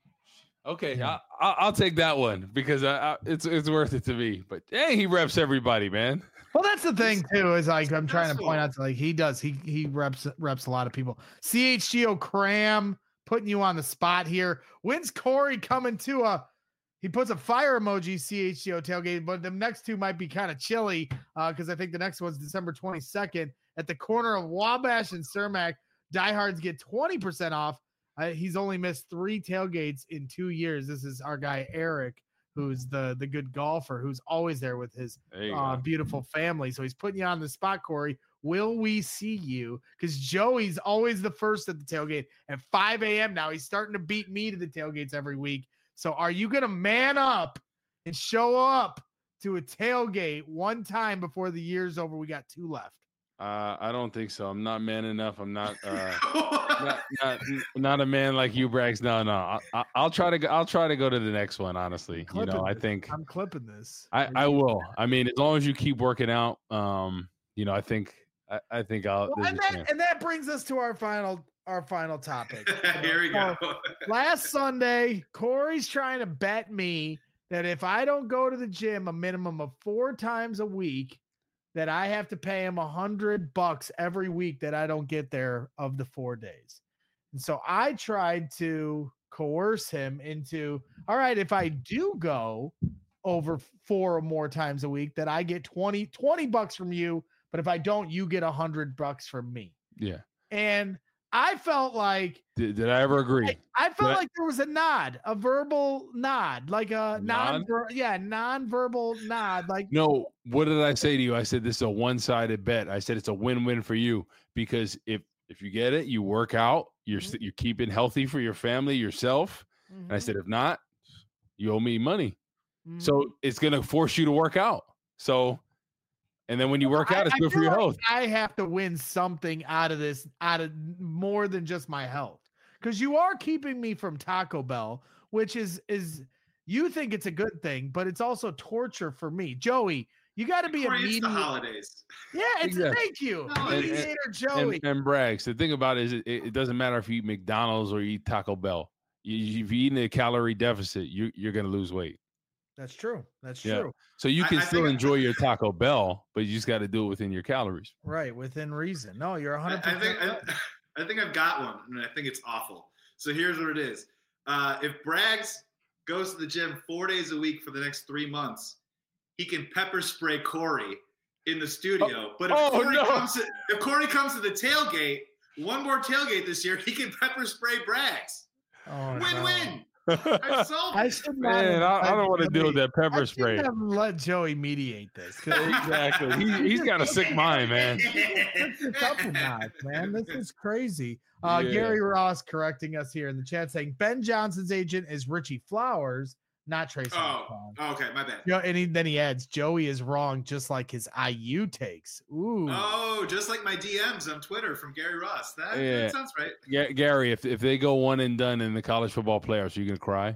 Okay, Yeah. I, I, I'll take that one because I, I, it's it's worth it to me. But hey, he reps everybody, man. Well, that's the thing too. Is like I'm trying to successful. point out to like he does. He he reps reps a lot of people. C H G O Cram putting you on the spot here. When's Corey coming to a? He puts a fire emoji. C H G O tailgate, but the next two might be kind of chilly because I think the next one's December twenty-second at the corner of Wabash and Cermak. Diehards get twenty percent off. Uh, he's only missed three tailgates in two years. This is our guy Eric, who's the the good golfer, who's always there with his There you uh, go. beautiful family. So he's putting you on the spot, Corey. Will we see you? Because Joey's always the first at the tailgate at five a.m. now. He's starting to beat me to the tailgates every week. So are you going to man up and show up to a tailgate one time before the year's over? We got two left. Uh, I don't think so. I'm not man enough. I'm not. Uh, not, not not a man like you, Brax. No, no. I, I, I'll try to. Go, I'll try to go to the next one. Honestly, you Clipping know, I this. think I'm clipping this. I, Are I you- will. I mean, as long as you keep working out, um, you know, I think I, I think I'll. Well, there's and a that chance. and that brings us to our final our final topic. Here we go. So, last Sunday, Corey's trying to bet me that if I don't go to the gym a minimum of four times a week, that I have to pay him a hundred bucks every week that I don't get there of the four days. And so I tried to coerce him into, all right, if I do go over four or more times a week, that I get twenty, twenty bucks from you. But if I don't, you get a hundred bucks from me. Yeah. And I felt like Did, did I ever agree? I, I felt That- like there was a nod, a verbal nod, like a non, Nod? yeah, non-verbal nod. Like, No, what did I say to you? I said this is a one-sided bet. I said it's a win-win for you because if if you get it, you work out, you're st- you're keeping healthy for your family, yourself. And I mhm, said if not, you owe me money. mhm. So it's gonna force you to work out. So, and then when you work out, I- it's I good for feel your like health. I have to win something out of this, out of more than just my health, because you are keeping me from Taco Bell, which is is you think it's a good thing, but it's also torture for me, Joey. You got to be Corey, it's the immediate. holidays. Yeah, it's Exactly. thank you, No, and- mediator And, Joey. and Braggs, the thing about it is, it, it doesn't matter if you eat McDonald's or you eat Taco Bell. You, if you eat in a calorie deficit, you, you're gonna lose weight. That's true. That's Yeah. true. So you can I, I still think, enjoy your Taco Bell, but you just got to do it within your calories. Right, within reason. No, you're one hundred I, percent. I think I, I think I've got one, and I think it's awful. So here's what it is: uh, if Braggs goes to the gym four days a week for the next three months, he can pepper spray Corey in the studio. Oh, but if, oh, Corey no. comes to, if Corey comes to the tailgate, one more tailgate this year, he can pepper spray Braggs. Oh, Win-win. no. I've solved I it. should not Man, have I, I don't want to let deal with Joey- that pepper I spray. shouldn't have let Joey mediate this. 'cause Exactly. He, he's got a sick mind, man. This is up a notch, man. This is crazy. Uh, Yeah. Gary Ross correcting us here in the chat saying Ben Johnson's agent is Richie Flowers, not Trace Oh, Armstrong. okay, my bad. You know, and he, then he adds, Joey is wrong, just like his I U takes. Ooh. Oh, just like my D Ms on Twitter from Gary Ross. That, Yeah. that sounds right. Ga- Gary, if, if they go one and done in the college football playoffs, are you going to cry?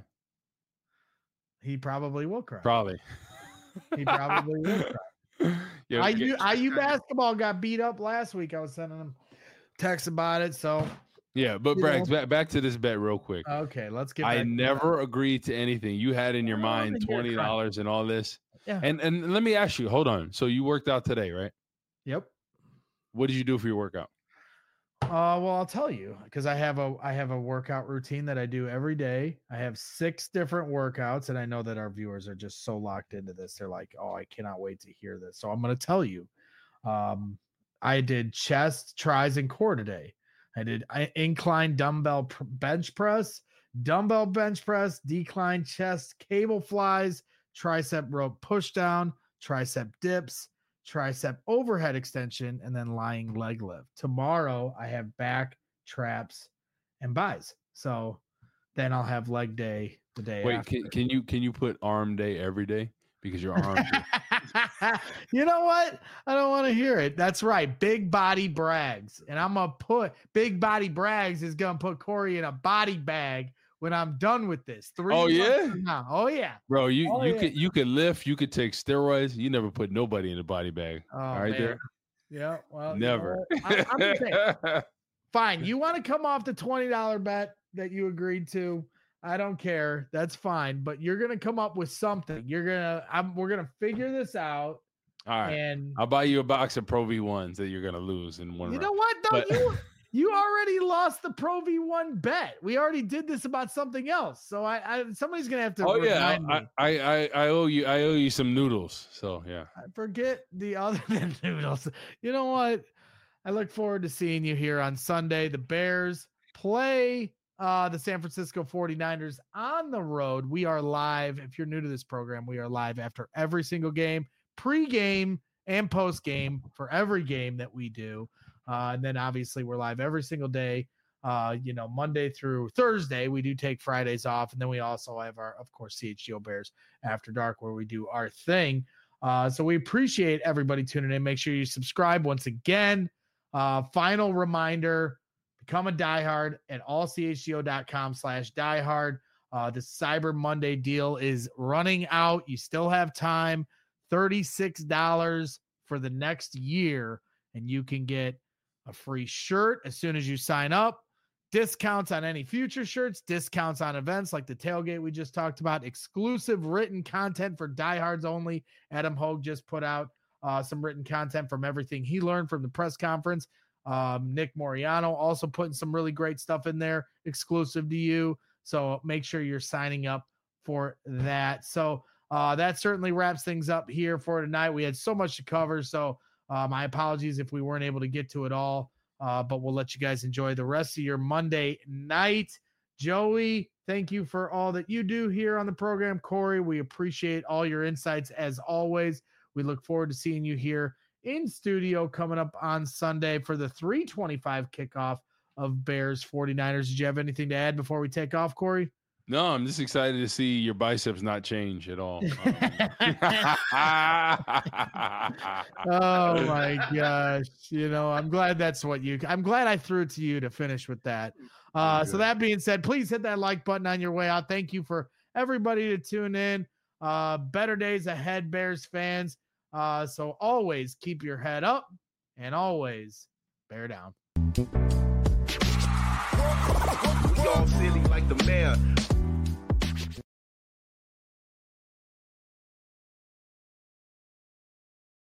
He probably will cry. Probably. He probably will cry. Yeah, I U, yeah, I U basketball got beat up last week. I was sending him texts about it. So, yeah, but you Braggs, know. back, back to this bet real quick. okay, let's get I back to never agreed to anything. You had in your Oh, mind then you're twenty dollars and all this. Yeah. And and let me ask you, hold on. So you worked out today, right? Yep. What did you do for your workout? Uh, well, I'll tell you because I have a I have a workout routine that I do every day. I have six different workouts, and I know that our viewers are just so locked into this. They're like, "Oh, I cannot wait to hear this." So I'm going to tell you. Um, I did chest, tris, and core today. I did I- incline dumbbell pr- bench press, dumbbell bench press, decline chest, cable flies, tricep rope push down, tricep dips, tricep overhead extension, and then lying leg lift. Tomorrow I have back, traps, and buys. So then I'll have leg day the day Wait, after. can, can you can you put arm day every day because your arms? are- You know what? I don't want to hear it. That's right. Big body Braggs. And I'm going to put Big Body Braggs is going to put Corey in a body bag when I'm done with this. Three Oh, months yeah? from now. Oh, yeah. Bro, you Oh, you yeah. could you could lift, you could take steroids. You never put nobody in a body bag. Oh, All right, man. there. Yeah. Well, you know Never. what? I, I'm just saying. Fine. You want to come off the twenty dollars bet that you agreed to? I don't care. That's fine. But you're going to come up with something. You're going to, I'm, we're going to figure this out. All right. And I'll buy you a box of Pro V ones that you're gonna lose in one you round. know what? No, But- you you already lost the Pro V one bet. We already did this about something else. So I, I somebody's gonna have to Oh yeah, remind me. I, I I I owe you I owe you some noodles. So yeah. I forget the other than noodles. You know what? I look forward to seeing you here on Sunday. The Bears play uh, the San Francisco forty-niners on the road. We are live. If you're new to this program, we are live after every single game, pre-game and post-game for every game that we do. Uh, and then obviously we're live every single day. Uh, you know, Monday through Thursday, we do take Fridays off. And then we also have our, of course, C H G O Bears After Dark, where we do our thing. Uh, so we appreciate everybody tuning in. Make sure you subscribe once again. Uh, final reminder, become a diehard at all c h g o dot com slash diehard. Uh, the Cyber Monday deal is running out. You still have time, thirty-six dollars for the next year, and you can get a free shirt as soon as you sign up. Discounts on any future shirts, discounts on events like the tailgate we just talked about, exclusive written content for diehards only. Adam Hogue just put out uh, some written content from everything he learned from the press conference. Um, Nick Moriano also putting some really great stuff in there exclusive to you. So make sure you're signing up for that. So uh, that certainly wraps things up here for tonight. We had so much to cover. So uh, my apologies if we weren't able to get to it all. Uh, but we'll let you guys enjoy the rest of your Monday night. Joey, thank you for all that you do here on the program. Corey, we appreciate all your insights as always. We look forward to seeing you here in studio coming up on Sunday for the three twenty-five kickoff of Bears forty-niners. Did you have anything to add before we take off, Corey? No, I'm just excited to see your biceps not change at all. Oh my gosh. You know, I'm glad that's what you, I'm glad I threw it to you to finish with that. Uh, so that being said, please hit that like button on your way out. Thank you for everybody to tune in. Uh, better days ahead, Bears fans. Uh, so always keep your head up and always bear down. We all silly like the mayor.